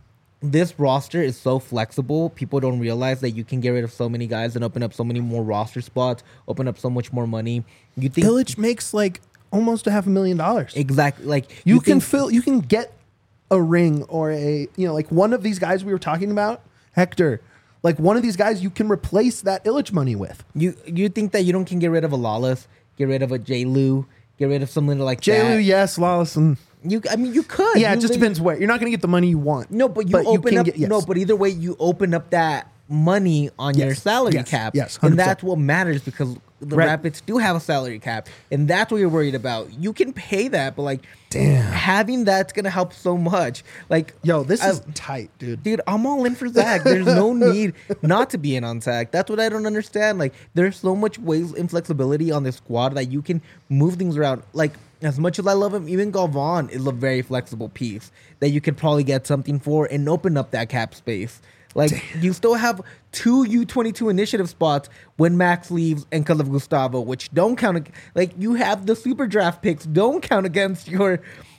This roster is so flexible. People don't realize that you can get rid of so many guys and open up so many more roster spots, open up so much more money. You think Illich makes almost $500,000. exactly like You can get a ring or one of these guys we were talking about, Hector. Like one of these guys you can replace that Illich money with. You think that you can get rid of a Lawless, get rid of a J. Lou, get rid of something like J. that. Lou, yes, Lawless, and You could. yeah, You it just depends where. You're not going to get the money you want. No, but you open can up. get- yes. No, but either way, you open up that money on your Yes, salary yes, cap. yes, and 100%. that's what matters because the Right. Rapids do have a salary cap, and that's what you're worried about. You can pay that, but Damn. having that's gonna help so much. Yo, this I- is tight, dude. Dude, I'm all in for Zach. There's no need not to be in on Zach. That's what I don't understand. There's so much ways and flexibility on this squad that you can move things around. As much as I love him, even Galvan is a very flexible piece that you could probably get something for and open up that cap space. You still have 2 U22 initiative spots when Max leaves and because of Gustavo, which don't count. You have the super draft picks don't count against your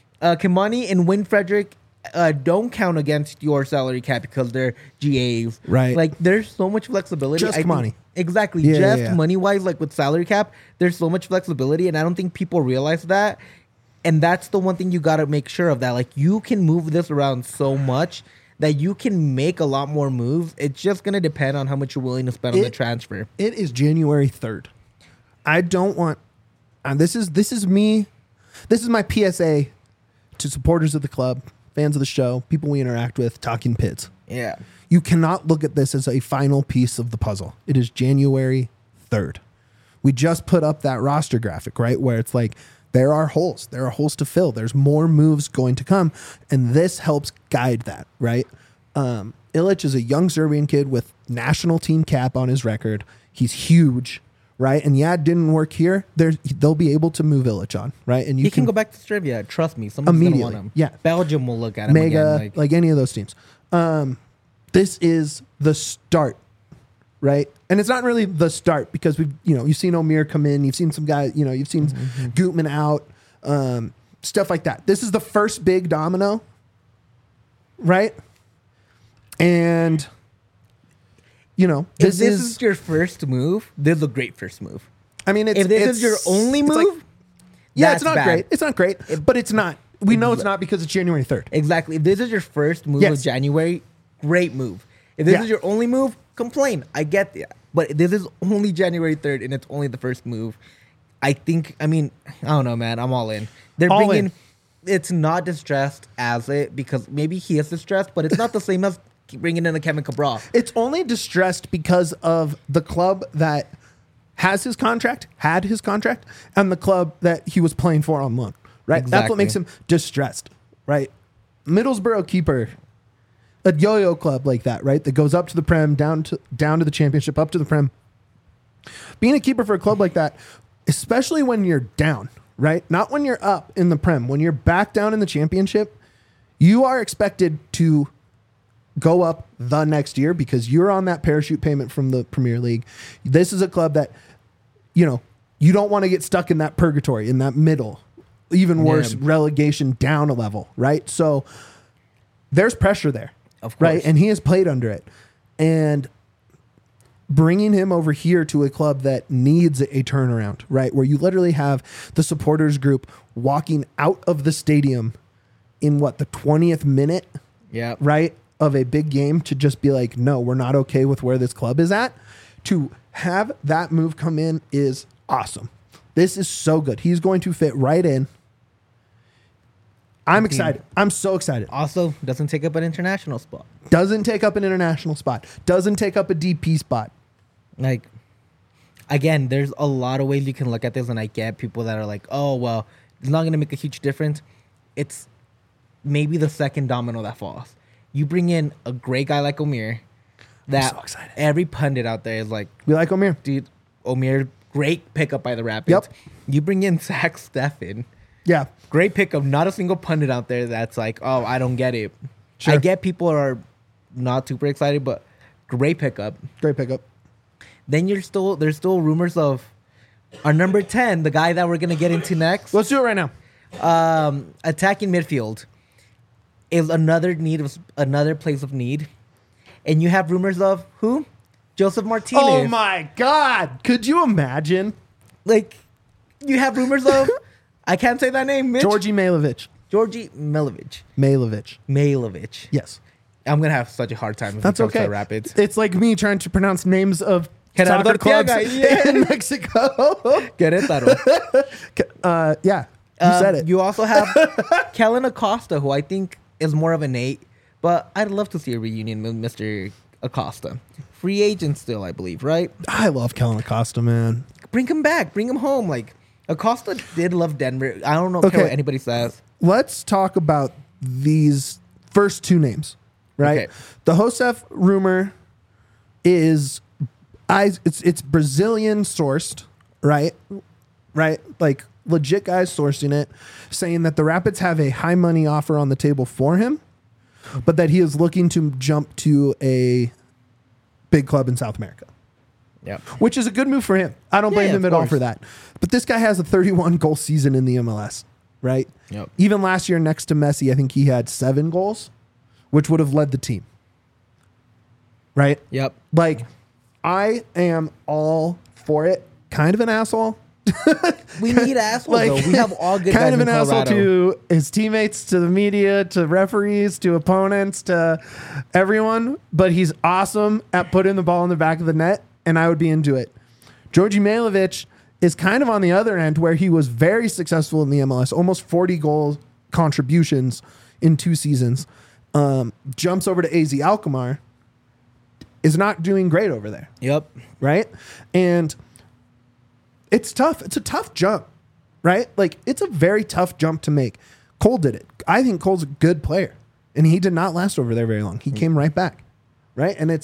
Kimani and Win Frederick don't count against your salary cap because they're GAs. Right. There's so much flexibility. Just I think- money. Exactly. Yeah, Just yeah. money-wise, with salary cap, there's so much flexibility, and I don't think people realize that. And that's the one thing you got to make sure of, that you can move this around so much that you can make a lot more moves. It's just going to depend on how much you're willing to spend on the transfer. It is January 3rd. I don't want. This is me. This is my PSA to supporters of the club, fans of the show, people we interact with, Talking Pids. Yeah. You cannot look at this as a final piece of the puzzle. It is January 3rd. We just put up that roster graphic, right? Where it's there are holes. There are holes to fill. There's more moves going to come. And this helps guide that, right? Illich is a young Serbian kid with national team cap on his record. He's huge, right? And yeah, it didn't work here. They'll be able to move Illich on, right? And He can go back to Serbia. Trust me. Someone's going to want Immediately, him. yeah. Belgium will look at him Mega, again. like any of those teams. This is the start, right? And it's not really the start because you've seen Omir come in, you've seen some guys, you've seen Gutman out, stuff like that. This is the first big domino, right? And if this is your first move, this is a great first move. I mean, If this is your only it's move, yeah, that's it's not bad. great. It's not great, but it's not. We know it's not because it's January 3rd. Exactly. If this is your first move Yes. of January, great move. If this Yeah. is your only move, complain. I get that. But this is only January 3rd and it's only the first move. I don't know, man. I'm all in. They're All bringing, in. it's not distressed as it, because maybe he is distressed, but it's not the same as bringing in a Kevin Cabral. It's only distressed because of the club that had his contract, and the club that he was playing for on loan, right? That's Exactly. what makes him distressed, right? Middlesbrough keeper, a yo-yo club like that, right? That goes up to the Prem, down to the championship, up to the Prem. Being a keeper for a club like that, especially when you're down, right? Not when you're up in the Prem, when you're back down in the championship, you are expected to go up the next year because you're on that parachute payment from the Premier League. This is a club that, you don't want to get stuck in that purgatory, in that middle, even worse, Yeah. relegation down a level, right? So there's pressure there, Of course. right? And he has played under it. And bringing him over here to a club that needs a turnaround, right? Where you literally have the supporters group walking out of the stadium in the 20th minute, Yeah. right, of a big game to just be like, no, we're not okay with where this club is at. To have that move come in is awesome. This is so good. He's going to fit right in. I'm excited. I'm so excited. Also, doesn't take up an international spot. Doesn't take up an international spot. Doesn't take up a DP spot. Like, again, there's a lot of ways you can look at this, and I get people that are like, oh, well, it's not going to make a huge difference. It's maybe the second domino that falls. You bring in a great guy like Omir, that so excited. every pundit out there is like, We like Omir. dude, Omir, great pickup by the Rapids. Yep. You bring in Zach Steffen, Yeah. great pickup. Not a single pundit out there that's like, oh, I don't get it. Sure. I get people are not super excited, but great pickup. Great pickup. Then there's still rumors of our number 10, the guy that we're gonna get into next. Let's do it right now. Attacking midfield is another place of need, and you have rumors of who? Joseph Martinez. Oh my God. Could you imagine? Like, you have rumors of I can't say that name, Mitch. Georgi Mailovic. Georgi Milovic. Mailovic. Yes. I'm gonna have such a hard time if That's it comes okay. to Rapids. It's like me trying to pronounce names of Gerardo soccer clubs Arteaga, yeah. in Mexico. Querétaro. Yeah. You said it. You also have Kellen Acosta, who I think is more of an 8, but I'd love to see a reunion with Mr. Acosta. Free agent still, I believe, right? I love Kellen Acosta, man. Bring him back. Bring him home. Like, Acosta did love Denver. I don't know Okay. care what anybody says. Let's talk about these first two names, right? Okay. The Josef rumor is it's Brazilian sourced, right? Right? Like legit guys sourcing it, saying that the Rapids have a high money offer on the table for him, but that he is looking to jump to a big club in South America. Yeah. Which is a good move for him. I don't blame Yeah, him of at all course. for that. But this guy has a 31 goal season in the MLS, right? Yep. Even last year next to Messi, I think he had 7 goals, which would have led the team. Right? Yep. Like, I am all for it. Kind of an asshole. We need assholes, though. We have all good kind guys of in an asshole Colorado. to his teammates, to the media, to referees, to opponents, to everyone. But he's awesome at putting the ball in the back of the net, and I would be into it. Georgi Mailovic is kind of on the other end, where he was very successful in the MLS, almost 40 goal contributions in 2 seasons. Jumps over to AZ Alkmaar, is not doing great over there. Yep. Right? And it's tough. It's a tough jump, right? Like, it's a very tough jump to make. Cole did it. I think Cole's a good player, and he did not last over there very long. He came right back, right? And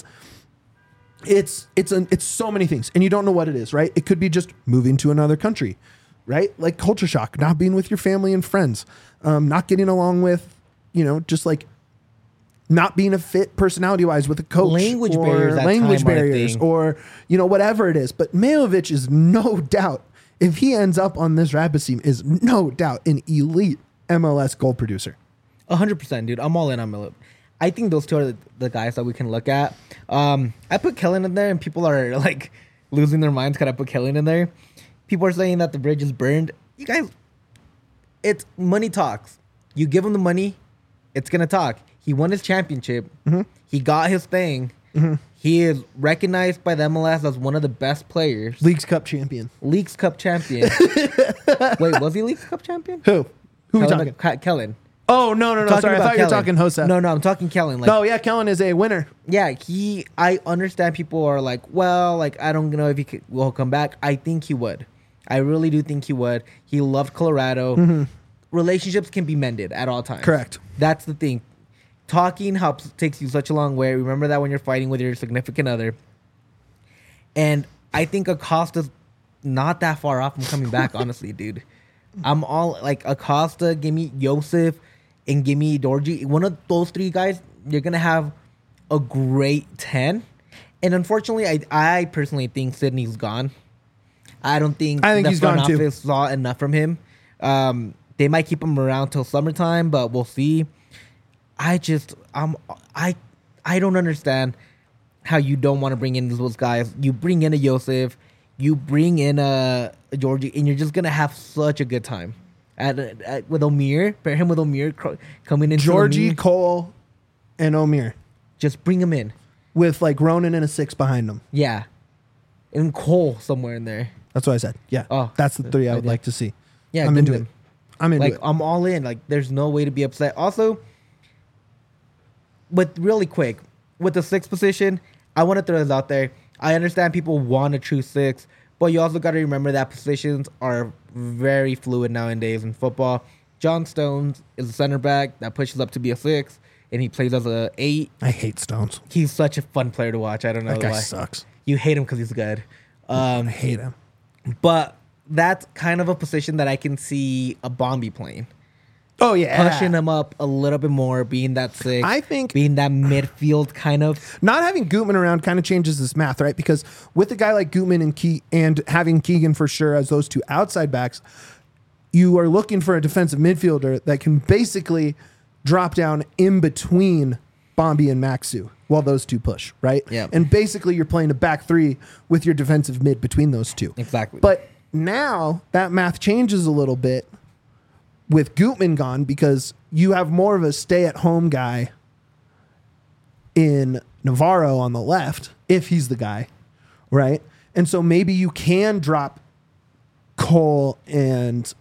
it's so many things, and you don't know what it is, right? It could be just moving to another country, right? Like culture shock, not being with your family and friends, not getting along with, just like not being a fit personality-wise with a coach. Language or barriers at language time are a barriers, thing. or whatever it is. But Mailovic is no doubt, if he ends up on this Rapids team, is no doubt an elite MLS goal producer. 100%, dude. I'm all in on Miller. I think those two are the guys that we can look at. I put Kellen in there, and people are like losing their minds because I put Kellen in there. People are saying that the bridge is burned. You guys, it's money talks. You give him the money, it's gonna talk. He won his championship. Mm-hmm. He got his thing. Mm-hmm. He is recognized by the MLS as one of the best players. Leagues Cup champion. Leagues Cup champion. Wait, was he Leagues Cup champion? Who we talking? Kellen. Oh, no. Talking Sorry, I about thought you were Kellen. talking Josef. No, I'm talking Kellen. Like, No, yeah, Kellen is a winner. yeah, I understand people are like, well, like, I don't know if will come back. I think he would. I really do think he would. He loved Colorado. Relationships can be mended at all times. Correct. That's the thing. Talking takes you such a long way. Remember that when you're fighting with your significant other. And I think Acosta's not that far off from coming back, honestly, dude. I'm all like Acosta, give me Josef, and give me Dorji. One of those 3 guys, you're going to have a great 10. And unfortunately, I personally think Sydney's gone. I think the he's front gone too. office saw enough from him. They might keep him around till summertime, but we'll see. I don't understand. how you don't want to bring in those guys. You bring in a Joseph, you bring in a Georgie, and you're just gonna have such a good time. With Omir, pair him with Omir coming in. Georgie, Cole, and Omir just bring him in with like Ronan and a 6 behind them. Yeah, and Cole somewhere in there. That's what I said. Yeah. Oh, that's the 3 I would idea. like to see. Yeah, I'm into Goodman. it. I'm into Like it. I'm all in. Like there's no way to be upset. Also, but really quick with the 6 position, I want to throw this out there. I understand people want a true 6, but you also got to remember that positions are very fluid nowadays in football. John Stones is a center back that pushes up to be a 6, and he plays as a 8. I hate Stones. He's such a fun player to watch. I don't know That guy why. sucks. You hate him because he's good. I hate him. But that's kind of a position that I can see a Bombi playing. Oh yeah, Pushing him up a little bit more, being that 6. I think being that midfield kind of. not having Gutman around kind of changes this math, right? Because with a guy like Gutman and having Keegan for sure as those 2 outside backs, you are looking for a defensive midfielder that can basically drop down in between Bombi and Maxu while those 2 push, right? Yeah. And basically you're playing a back 3 with your defensive mid between those 2. Exactly. But now that math changes a little bit with Gutman gone because you have more of a stay-at-home guy in Navarro on the left, if he's the guy, right? And so maybe you can drop Cole and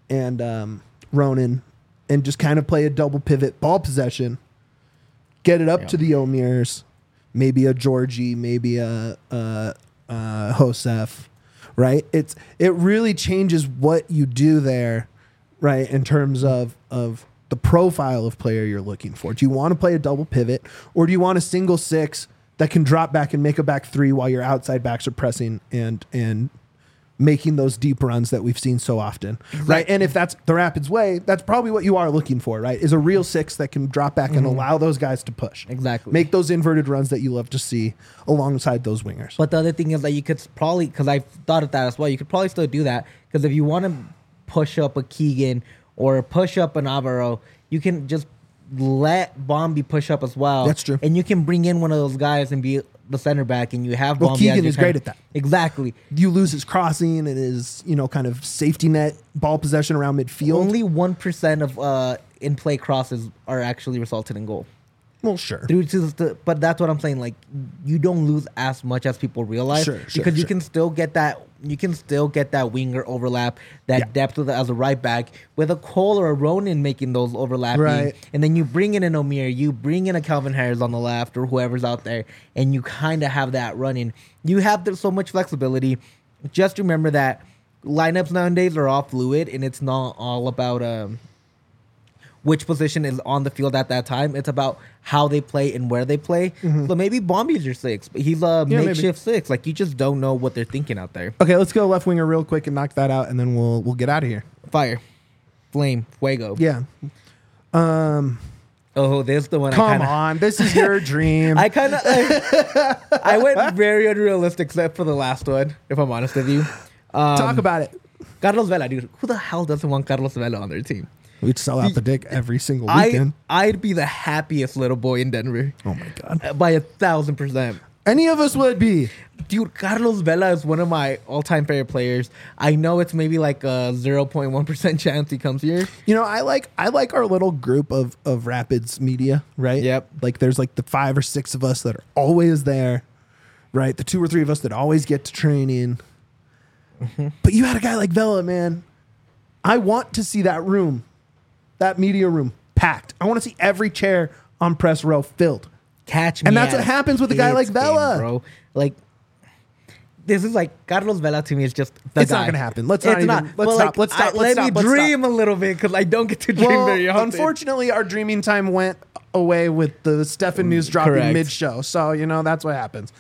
Ronan and just kind of play a double pivot ball possession, get it up to the Omirs, maybe a Georgie, maybe a Josef, right? It really changes what you do there, right? In terms of the profile of player you're looking for. Do you want to play a double pivot or do you want a single 6 that can drop back and make a back 3 while your outside backs are pressing and making those deep runs that we've seen so often, right? And if that's the Rapids way, that's probably what you are looking for, right? Is a real 6 that can drop back and allow those guys to push. Exactly. Make those inverted runs that you love to see alongside those wingers. But the other thing is that you could probably, because I've thought of that as well, you could probably still do that. Because if you want to push up a Keegan or push up an Navarro, you can just let Bombi push up as well. That's true. And you can bring in one of those guys and be the center back, and you have Well, Bombi. Keegan is great at that. Exactly. You lose his crossing and his, kind of safety net ball possession around midfield. Only 1% of in play crosses are actually resulted in goal. Well, sure. But that's what I'm saying. Like, you don't lose as much as people realize, because you can still get that. You can still get that winger overlap, that depth as a right back with a Cole or a Ronan making those overlapping, Right. and then you bring in an Omir, you bring in a Calvin Harris on the left or whoever's out there, and you kind of have that running. You have so much flexibility. Just remember that lineups nowadays are all fluid, and it's not all about which position is on the field at that time. It's about how they play and where they play. So maybe Bombi's your 6, but he's a makeshift 6. Like, you just don't know what they're thinking out there. Okay, let's go left winger real quick and knock that out, and then we'll get out of here. Fire, flame, fuego. Yeah. Oh, there's the one. Come on, this is your dream. I kind of, I went very unrealistic, except for the last one. If I'm honest with you, Talk about it. Carlos Vela, dude. Who the hell doesn't want Carlos Vela on their team? We'd sell out the dick every single weekend. I'd be the happiest little boy in Denver. Oh my god. By 1,000%. Any of us would be. Dude, Carlos Vela is one of my all-time favorite players. I know it's maybe like a 0.1% chance he comes here. I like our little group of Rapids media, right? Yep. Like there's like the 5 or 6 of us that are always there, right? The 2 or 3 of us that always get to training. But you had a guy like Vela, man. I want to see that room, that media room, packed. I want to see every chair on press row filled. Catch me. And that's at what happens with a guy like Hits game, Vela. bro. Like, this is like Carlos Vela to me is just the It's guy. not gonna happen. Let's It's not even. not. Let's But, stop. like, Let's stop. Let me dream a little bit, because I don't get to dream very Well, often. unfortunately, our dreaming time went away with the Stefan news dropping correct. mid-show. So that's what happens.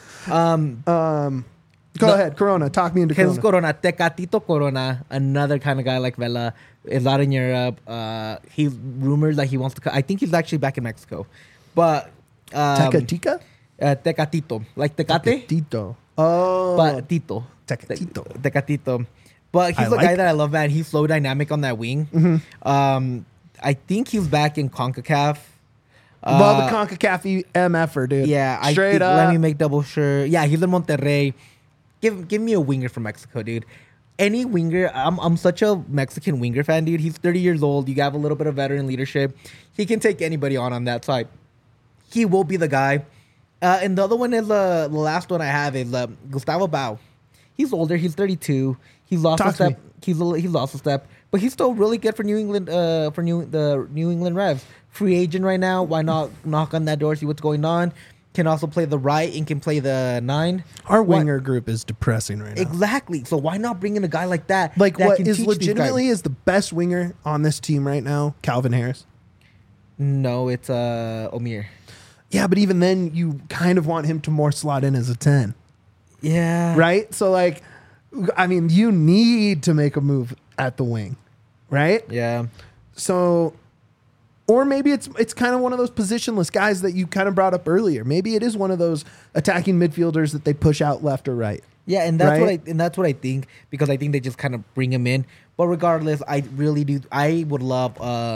Go ahead, Corona. Talk me into Jesus Corona. Corona, Tecatito Corona, another kind of guy like Vela, is out in Europe. He's rumored that he wants to. I think he's actually back in Mexico, but Tecatica? Tecatito, like Tecate, Tito. Oh. but Tito. Tecatito. Tecatito. But he's I the like guy it. that I love, man. He's so dynamic on that wing. I think he's back in CONCACAF. Well, the CONCACAF MFer, dude. Yeah, Straight up. Let me make double sure. Yeah, he's in Monterrey. Give me a winger from Mexico, dude. Any winger. I'm such a Mexican winger fan, dude. He's 30 years old. You have a little bit of veteran leadership. He can take anybody on that side. He will be the guy. And the other one is the last one I have is Gustavo Bau. He's older. He's 32. He's lost a step. He's lost a step, but he's still really good for New England. For the New England Revs. Free agent right now. Why not knock on that door, see what's going on? Can also play the right and can play the 9. Our winger group is depressing right now. Exactly. So why not bring in a guy like that? Like that what can is teach these legitimately guys? is the best winger on this team right now? Calvin Harris. No, it's Omir. Yeah, but even then, you kind of want him to more slot in as a 10, Yeah. right? So like, I mean, you need to make a move at the wing, right? Yeah. So, or maybe it's kind of one of those positionless guys that you kind of brought up earlier. Maybe it is one of those attacking midfielders that they push out left or right. Yeah, and that's Right? what I think, because I think they just kind of bring him in. But regardless, I really do. I would love.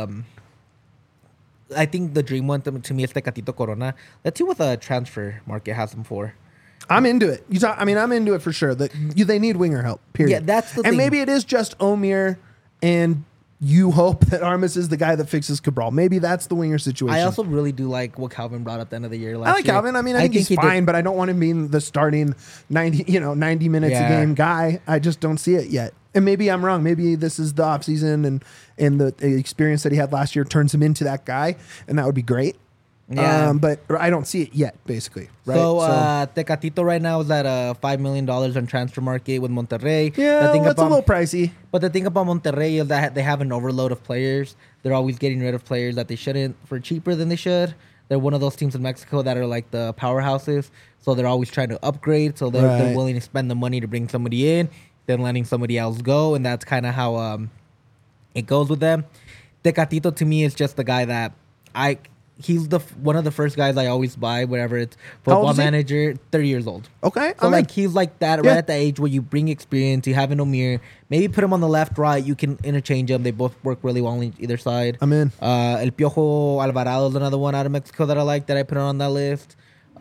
I think the dream one to me is Tecatito Corona. Let's see what the transfer market has him for. I'm into it. I'm into it for sure. They need winger help. Period. Yeah, that's the and thing. maybe it is just Omir, and you hope that Armas is the guy that fixes Cabral. Maybe that's the winger situation. I also really do like what Calvin brought up at the end of the year. I like Calvin. I mean, I think he's he fine, did- but I don't want him being the starting 90 minutes a Yeah. game guy. I just don't see it yet. And maybe I'm wrong. Maybe this is the offseason and the experience that he had last year turns him into that guy, and that would be great. Yeah. But I don't see it yet, basically. Right? So, Tecatito right now is at $5 million on transfer market with Monterrey. yeah, The thing that's a about- little pricey. But the thing about Monterrey is that they have an overload of players. They're always getting rid of players that they shouldn't for cheaper than they should. They're one of those teams in Mexico that are like the powerhouses. So they're always trying to upgrade. So they're Right. willing to spend the money to bring somebody in, then letting somebody else go. And that's kind of how it goes with them. Tecatito to me is just the guy that he's one of the first guys I always buy whenever it's How old Football is he? Manager, 30 years old. Okay. So I'm like in. he's like that Yeah. right at the age where you bring experience, you have an Omir, maybe put him on the left, right, you can interchange them. They both work really well on either side. I'm in. El Piojo Alvarado is another one out of Mexico that I like that I put on that list.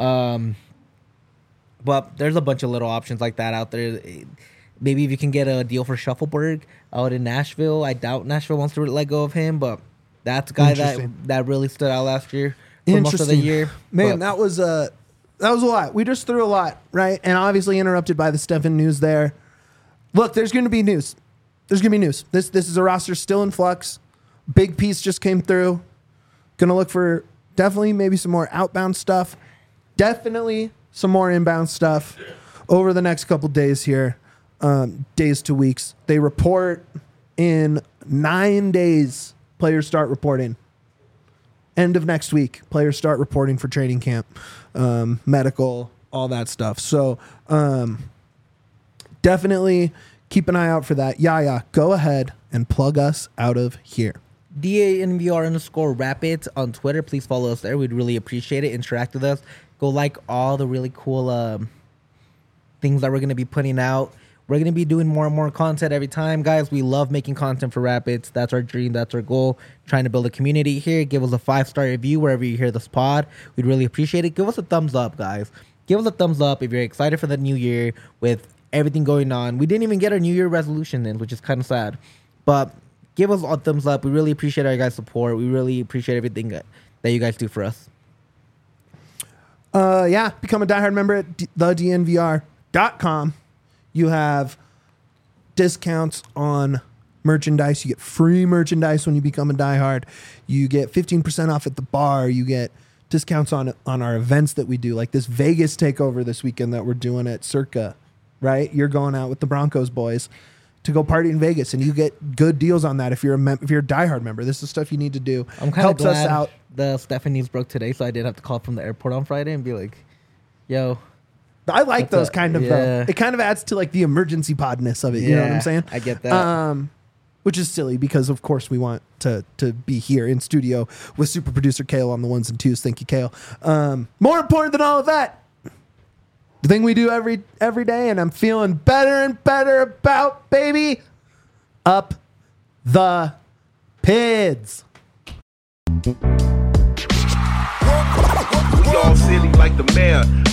But there's a bunch of little options like that out there. Maybe if you can get a deal for Shuffleberg out in Nashville. I doubt Nashville wants to let go of him, but that's a guy Interesting. that really stood out last year for most of the year. Man, But- that was a lot. We just threw a lot, right? And obviously interrupted by the Stefan news there. Look, there's going to be news. There's going to be news. This is a roster still in flux. Big piece just came through. Going to look for definitely maybe some more outbound stuff. Definitely some more inbound stuff over the next couple days here. Days to weeks. They report in 9 days. Players start reporting. End of next week, players start reporting for training camp, medical, all that stuff. So definitely keep an eye out for that. Yaya, go ahead and plug us out of here. DANVR_Rapids on Twitter. Please follow us there. We'd really appreciate it. Interact with us. Go like all the really cool things that we're going to be putting out. We're going to be doing more and more content every time, guys. We love making content for Rapids. That's our dream. That's our goal. Trying to build a community here. Give us a 5-star review wherever you hear this pod. We'd really appreciate it. Give us a thumbs up, guys. Give us a thumbs up if you're excited for the new year with everything going on. We didn't even get our New Year resolution in, which is kind of sad. But give us a thumbs up. We really appreciate our guys' support. We really appreciate everything that you guys do for us. Become a diehard member at thednvr.com. You have discounts on merchandise. You get free merchandise when you become a diehard. You get 15% off at the bar. You get discounts on our events that we do, like this Vegas takeover this weekend that we're doing at Circa, right? You're going out with the Broncos boys to go party in Vegas, and you get good deals on that if you're a diehard member. This is stuff you need to do. I'm kind of Helps us glad out. the Stephanie's broke today, so I did have to call from the airport on Friday and be like, yo. I like That's those kind of. yeah. It kind of adds to like the emergency podness of it. You know what I'm Yeah, saying? I get that. Which is silly because of course we want to be here in studio with super producer Kale on the ones and twos. Thank you, Kale. More important than all of that, the thing we do every day, and I'm feeling better and better about, baby, up the PIDs. y'all silly like the mayor.